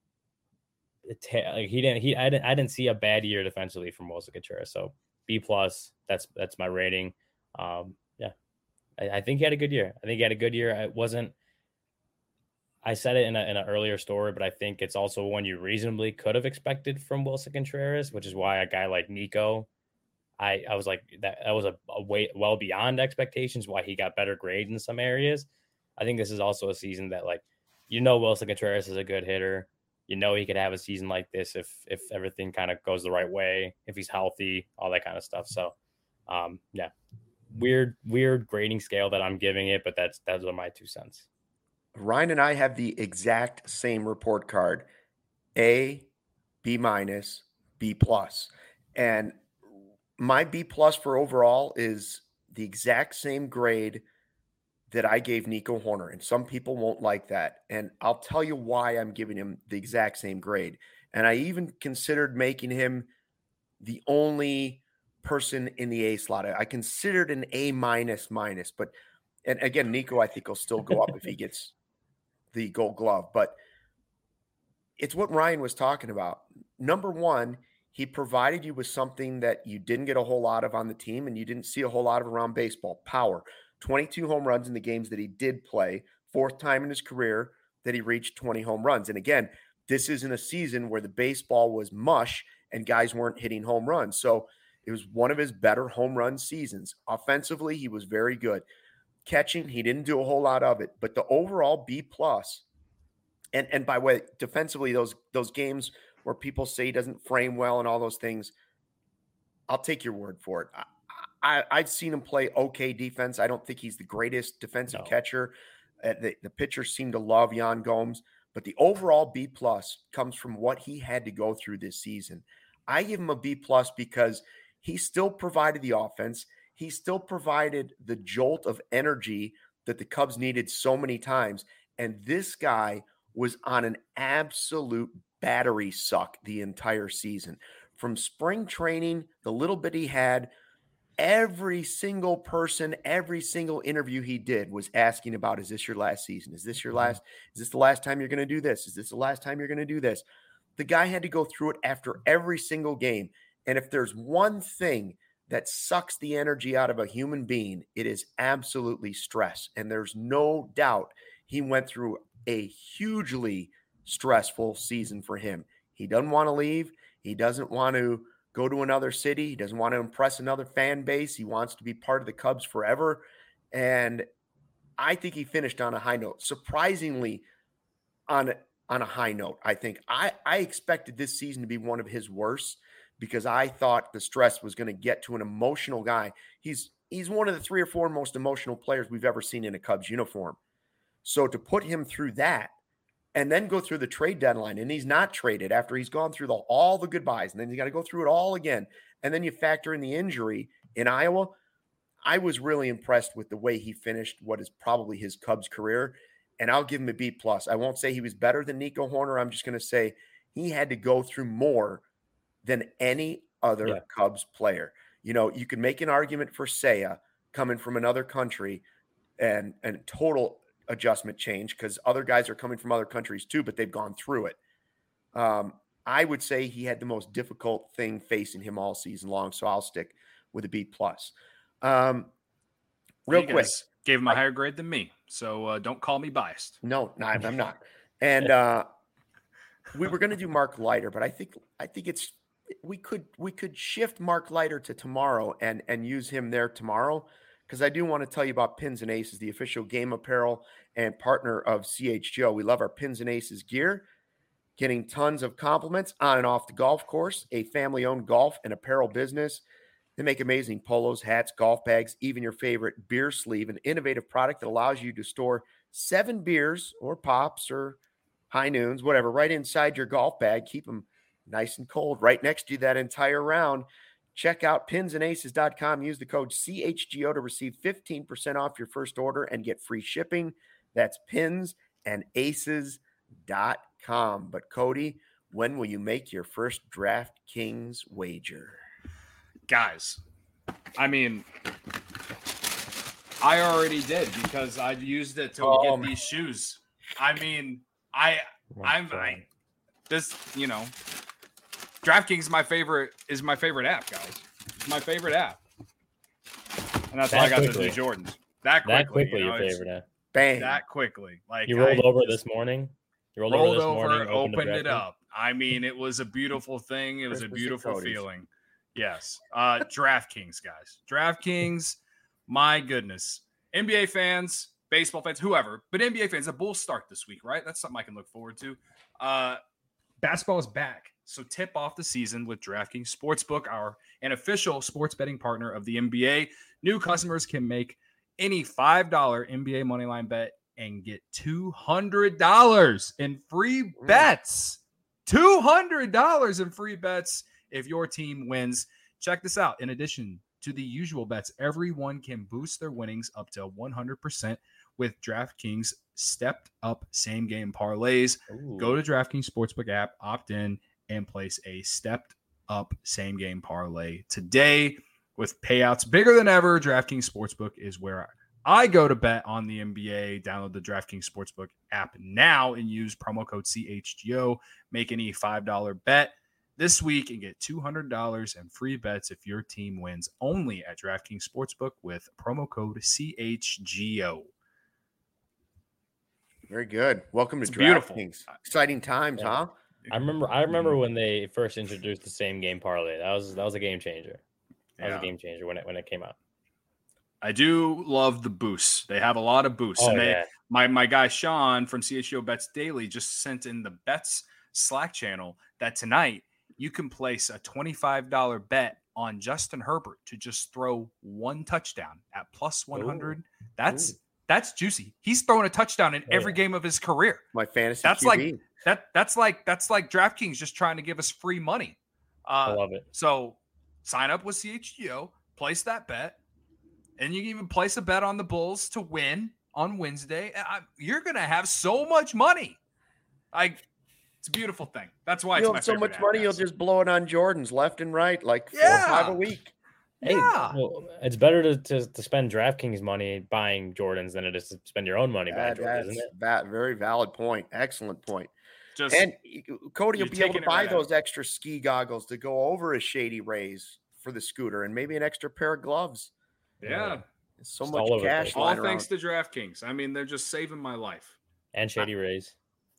I didn't see a bad year defensively from Wilson Contreras. So B+, that's my rating. Yeah, I think he had a good year. It wasn't, I said it in an earlier story, but I think it's also one you reasonably could have expected from Wilson Contreras, which is why a guy like Nico, I was like that was a way well beyond expectations. Why he got better grades in some areas. I think this is also a season that Wilson Contreras is a good hitter. He could have a season like this if everything kind of goes the right way, if he's healthy, all that kind of stuff. So, yeah, weird grading scale that I'm giving it, but those are my 2 cents. Ryan and I have the exact same report card: A, B minus, B plus. And my B plus for overall is the exact same grade that I gave Nico Hoerner. And some people won't like that. And I'll tell you why I'm giving him the exact same grade. And I even considered making him the only person in the A slot. I considered an A minus, but and again, Nico, I think will still go up if he gets the Gold Glove. But it's what Ryan was talking about. Number one, he provided you with something that you didn't get a whole lot of on the team and you didn't see a whole lot of around baseball: power. 22 home runs in the games that he did play, 4th time in his career that he reached 20 home runs. And again, this isn't a season where the baseball was mush and guys weren't hitting home runs. So it was one of his better home run seasons. Offensively, he was very good. Catching, he didn't do a whole lot of it, but the overall B plus, and by the way, defensively, those games where people say he doesn't frame well and all those things, I'll take your word for it. I've seen him play okay defense. I don't think he's the greatest defensive catcher. The pitchers seem to love Yan Gomes, but the overall B plus comes from what he had to go through this season. I give him a B plus because he still provided the offense. He still provided the jolt of energy that the Cubs needed so many times. And this guy was on an absolute battery suck the entire season. From spring training, the little bit he had, every single person, every single interview he did was asking about, is this your last season? Is this the last time you're going to do this? Is this the last time you're going to do this? The guy had to go through it after every single game. And if there's one thing that sucks the energy out of a human being, it is absolutely stress. And there's no doubt he went through a hugely stressful season for him. He doesn't want to leave. He doesn't want to go to another city. He doesn't want to impress another fan base. He wants to be part of the Cubs forever. And I think he finished on a high note, surprisingly on a high note. I think I expected this season to be one of his worst because I thought the stress was going to get to an emotional guy. He's one of the 3 or 4 most emotional players we've ever seen in a Cubs uniform. So to put him through that and then go through the trade deadline, and he's not traded after he's gone through all the goodbyes, and then you got to go through it all again, and then you factor in the injury in Iowa. I was really impressed with the way he finished what is probably his Cubs career, and I'll give him a B plus. I won't say he was better than Nico Hoerner. I'm just going to say he had to go through more than any other Cubs player. You can make an argument for Seiya coming from another country and total adjustment change because other guys are coming from other countries too, but they've gone through it. I would say he had the most difficult thing facing him all season long, so I'll stick with a B plus. Real quick, gave him a higher grade than me, so don't call me biased. No, I'm not. And we were going to do Mark Leiter, but I think we could shift Mark Leiter to tomorrow and use him there tomorrow. Because I do want to tell you about Pins and Aces, the official game apparel and partner of CHGO. We love our Pins and Aces gear, getting tons of compliments on and off the golf course, a family-owned golf and apparel business. They make amazing polos, hats, golf bags, even your favorite beer sleeve, an innovative product that allows you to store 7 beers or pops or high noons, whatever, right inside your golf bag. Keep them nice and cold right next to you that entire round. Check out pinsandaces.com. Use the code CHGO to receive 15% off your first order and get free shipping. That's pinsandaces.com. But Cody, when will you make your first DraftKings wager? Guys, I mean, I already did because I used it to get these shoes. I mean, DraftKings is my favorite app, guys. It's my favorite app. And that's why I got the new Jordans. That quickly your favorite app. Bang. that quickly. Like you rolled over this morning. You rolled over this morning, opened it up. I mean, it was a beautiful thing. It was a beautiful feeling. Yes. DraftKings, guys. DraftKings, my goodness. NBA fans, baseball fans, whoever, but NBA fans, the Bulls start this week, right? That's something I can look forward to. Basketball is back. So tip off the season with DraftKings Sportsbook, an official sports betting partner of the NBA. New customers can make any $5 NBA moneyline bet and get $200 in free bets. $200 in free bets if your team wins. Check this out. In addition to the usual bets, everyone can boost their winnings up to 100% with DraftKings stepped up same game parlays. Ooh. Go to DraftKings Sportsbook app, opt in, and place a stepped up same game parlay today with payouts bigger than ever. DraftKings Sportsbook is where I go to bet on the NBA. Download the DraftKings Sportsbook app now and use promo code CHGO. Make any $5 bet this week and get $200 in free bets if your team wins, only at DraftKings Sportsbook with promo code CHGO. Very good. Welcome to DraftKings. Exciting times, huh? I remember when they first introduced the same game parlay. That was a game changer. That was a game changer when it came out. I do love the boosts. They have a lot of boosts. My guy Sean from CHGO Bets Daily just sent in the Bets Slack channel that tonight you can place a $25 bet on Justin Herbert to just throw one touchdown at plus 100. Ooh. That's juicy. He's throwing a touchdown in every game of his career. My fantasy that's QB. That's like DraftKings just trying to give us free money. I love it. So sign up with CHGO, place that bet. And you can even place a bet on the Bulls to win on Wednesday. You're going to have so much money. It's a beautiful thing. That's why you'll have so much money, you'll just blow it on Jordans left and right, like 4 or 5 a week. Hey, well, it's better to spend DraftKings money buying Jordans than it is to spend your own money buying Jordans, isn't it? Very valid point. Excellent point. And Cody will be able to buy those extra ski goggles to go over a Shady Rays for the scooter and maybe an extra pair of gloves. Yeah. So much cash. All thanks to DraftKings. I mean, they're just saving my life. And Shady Rays.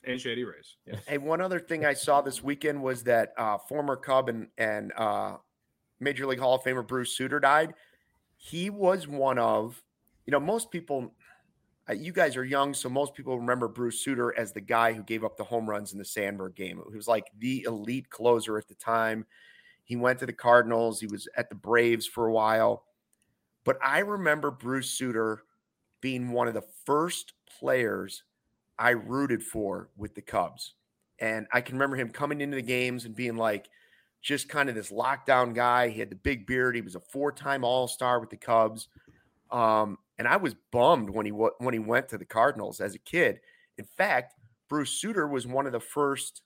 Yeah. Hey, one other thing I saw this weekend was that former Cub and Major League Hall of Famer Bruce Sutter died. He was one of, most people, you guys are young, so most people remember Bruce Sutter as the guy who gave up the home runs in the Sandberg game. He was like the elite closer at the time. He went to the Cardinals. He was at the Braves for a while. But I remember Bruce Sutter being one of the first players I rooted for with the Cubs. And I can remember him coming into the games and being like just kind of this lockdown guy. He had the big beard. He was a 4-time All-Star with the Cubs. And I was bummed when he went to the Cardinals as a kid. In fact, Bruce Sutter was one of the first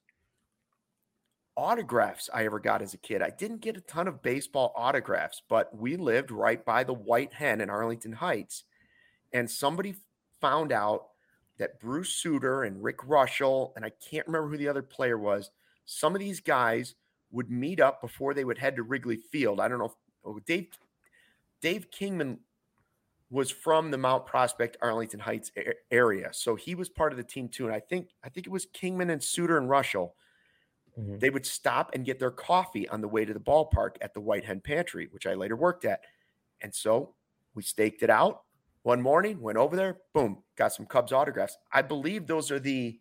autographs I ever got as a kid. I didn't get a ton of baseball autographs, but we lived right by the White Hen in Arlington Heights. And somebody found out that Bruce Sutter and Rick Russell, and I can't remember who the other player was, some of these guys would meet up before they would head to Wrigley Field. I don't know if Dave Kingman was from the Mount Prospect, Arlington Heights area. So he was part of the team too. And I think it was Kingman and Sutter and Russell. Mm-hmm. They would stop and get their coffee on the way to the ballpark at the White Hen Pantry, which I later worked at. And so we staked it out one morning, went over there, boom, got some Cubs autographs. I believe those are they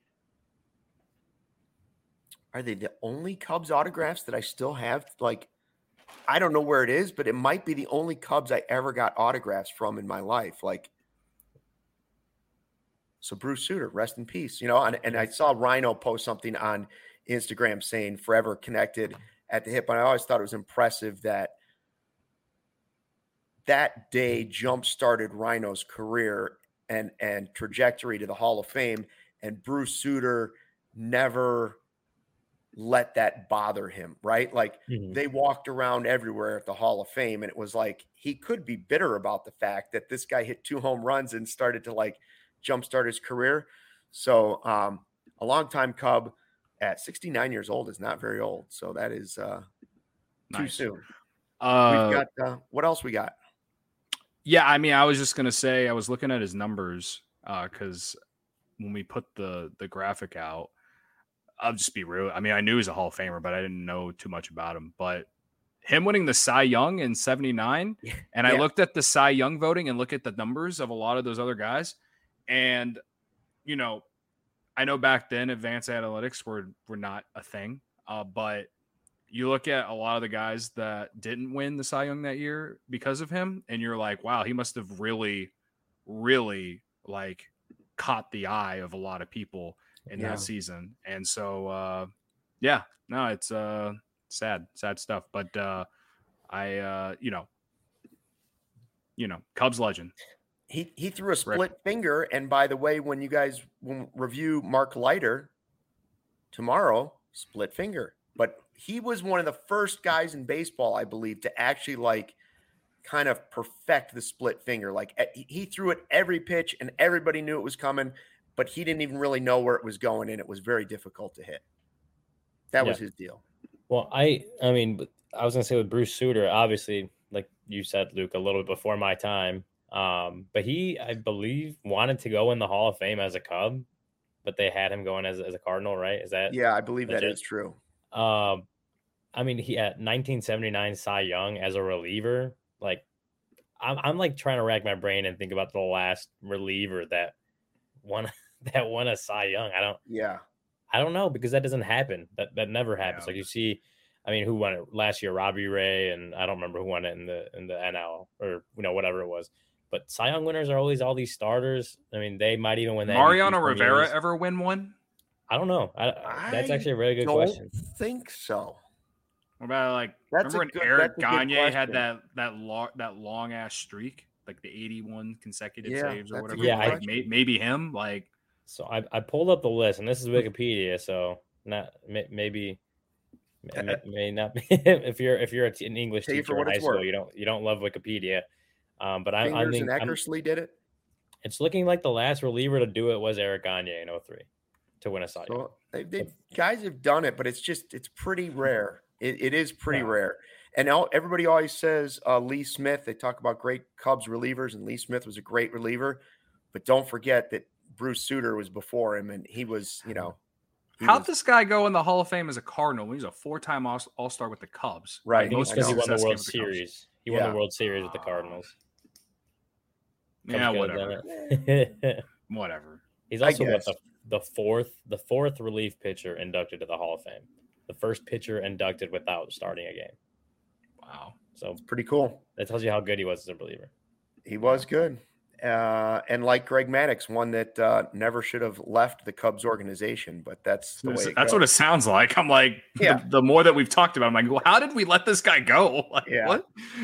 the only Cubs autographs that I still have? Like, I don't know where it is, but it might be the only Cubs I ever got autographs from in my life. Like, so Bruce Sutter, rest in peace, and I saw Rhino post something on Instagram saying forever connected at the hip. And I always thought it was impressive that day jump-started Rhino's career and trajectory to the Hall of Fame. And Bruce Sutter never let that bother him, right? Like They walked around everywhere at the Hall of Fame, and it was like he could be bitter about the fact that this guy hit 2 home runs and started to like jumpstart his career. So a longtime Cub at 69 years old is not very old. So that is too soon. We've got what else we got? Yeah, I mean, I was just going to say, I was looking at his numbers. because when we put the graphic out, I'll just be real. I mean, I knew he was a Hall of Famer, but I didn't know too much about him. But him winning the Cy Young in 79, and I looked at the Cy Young voting and look at the numbers of a lot of those other guys. And, you know, I know back then advanced analytics were not a thing, but you look at a lot of the guys that didn't win the Cy Young that year because of him, and you're like, wow, he must have really, really like caught the eye of a lot of people in that season. And so, it's sad stuff. But Cubs legend. He threw a split finger. And by the way, when you guys review Mark Leiter tomorrow, split finger. But he was one of the first guys in baseball, I believe, to actually like kind of perfect the split finger. Like he threw it every pitch and everybody knew it was coming, but he didn't even really know where it was going, and it was very difficult to hit. That was his deal. Well, I mean, I was going to say with Bruce Sutter, obviously, like you said, Luke, a little bit before my time. But he, I believe, wanted to go in the Hall of Fame as a Cub, but they had him going as a Cardinal, right? Is that? Yeah, I believe that is true. I mean, he had 1979 Cy Young as a reliever. Like, I'm like trying to rack my brain and think about the last reliever that won a Cy Young. I don't know, because that doesn't happen. That never happens. Like you see, I mean, who won it last year? Robbie Ray, and I don't remember who won it in the NL or whatever it was. But Cy Young winners are always all these starters. I mean, they might even win that. Mariano Rivera ever win one? I don't know. That's actually a really good question. I don't think so. What about remember when Eric Gagne had that long ass streak, like the 81 consecutive saves or whatever? Yeah, maybe him. Like, so I pulled up the list, and this is Wikipedia, so maybe may not be if you're an English teacher in high school, you don't love Wikipedia. But I think Eckersley did it. It's looking like the last reliever to do it was Eric Gagne in 2003 to win a Cy Young. So guys have done it, but it's pretty rare. It is pretty rare. And everybody always says Lee Smith. They talk about great Cubs relievers, and Lee Smith was a great reliever. But don't forget that Bruce Sutter was before him, and he was, How'd this guy go in the Hall of Fame as a Cardinal? He's a 4-time All-Star with the Cubs. Right. I think it's because he won the World Series. He won the World Series with the Cardinals. Yeah, whatever. Whatever. He's also the fourth relief pitcher inducted to the Hall of Fame. The first pitcher inducted without starting a game. Wow. So it's pretty cool. That tells you how good he was as a reliever. He was good. And like Greg Maddux, one that never should have left the Cubs organization, but that's the way that's what it sounds like. I'm like, the more that we've talked about, I'm like, well, how did we let this guy go? Like, what?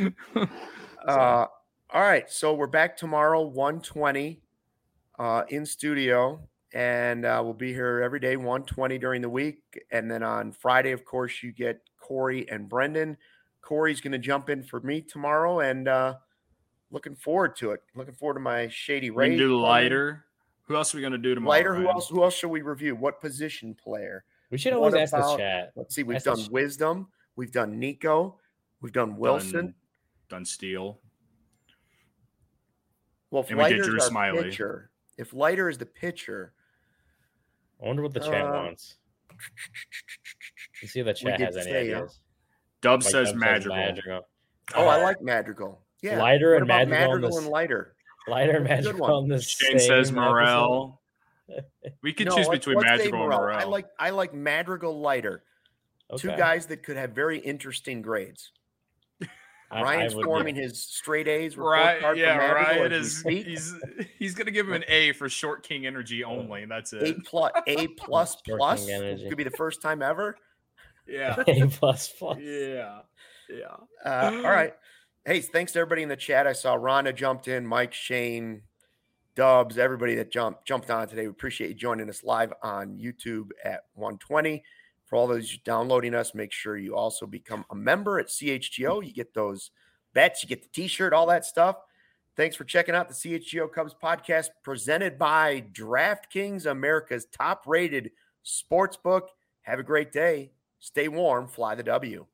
All right. So we're back tomorrow, 1:20 in studio. And we'll be here every day, 1:20 during the week. And then on Friday, of course, you get Corey and Brendan. Corey's going to jump in for me tomorrow, and looking forward to it. Looking forward to my Shady Ray. We can do Leiter. Who else are we going to do tomorrow? Leiter. Who else should we review? What position player? We should always ask the chat. Let's see. We've done Wisdom. We've done Nico. We've done Wilson. Done Steele. Well, if Leiter's our pitcher, if Leiter is the pitcher. I wonder what the chat wants. Let's see if the chat has any ideas. Dub says Madrigal. Oh, I like Madrigal. Yeah. Leiter and Madrigal and Leiter. Leiter and Madrigal on the Shane says Morel. We could choose between Madrigal and Morel. I like Madrigal, Leiter. Okay. Two guys that could have very interesting grades. Ryan's forming his straight A's. Right. Yeah, Ryan is. He's going to give him an A for Short King energy only. That's it. A plus. Could be the first time ever. Yeah. A plus. Yeah. All right. Hey, thanks to everybody in the chat. I saw Rhonda jumped in, Mike, Shane, Dubs, everybody that jumped on today. We appreciate you joining us live on YouTube at 1:20. For all those downloading us, make sure you also become a member at CHGO. You get those bets, you get the t-shirt, all that stuff. Thanks for checking out the CHGO Cubs podcast presented by DraftKings, America's top-rated sportsbook. Have a great day. Stay warm. Fly the W.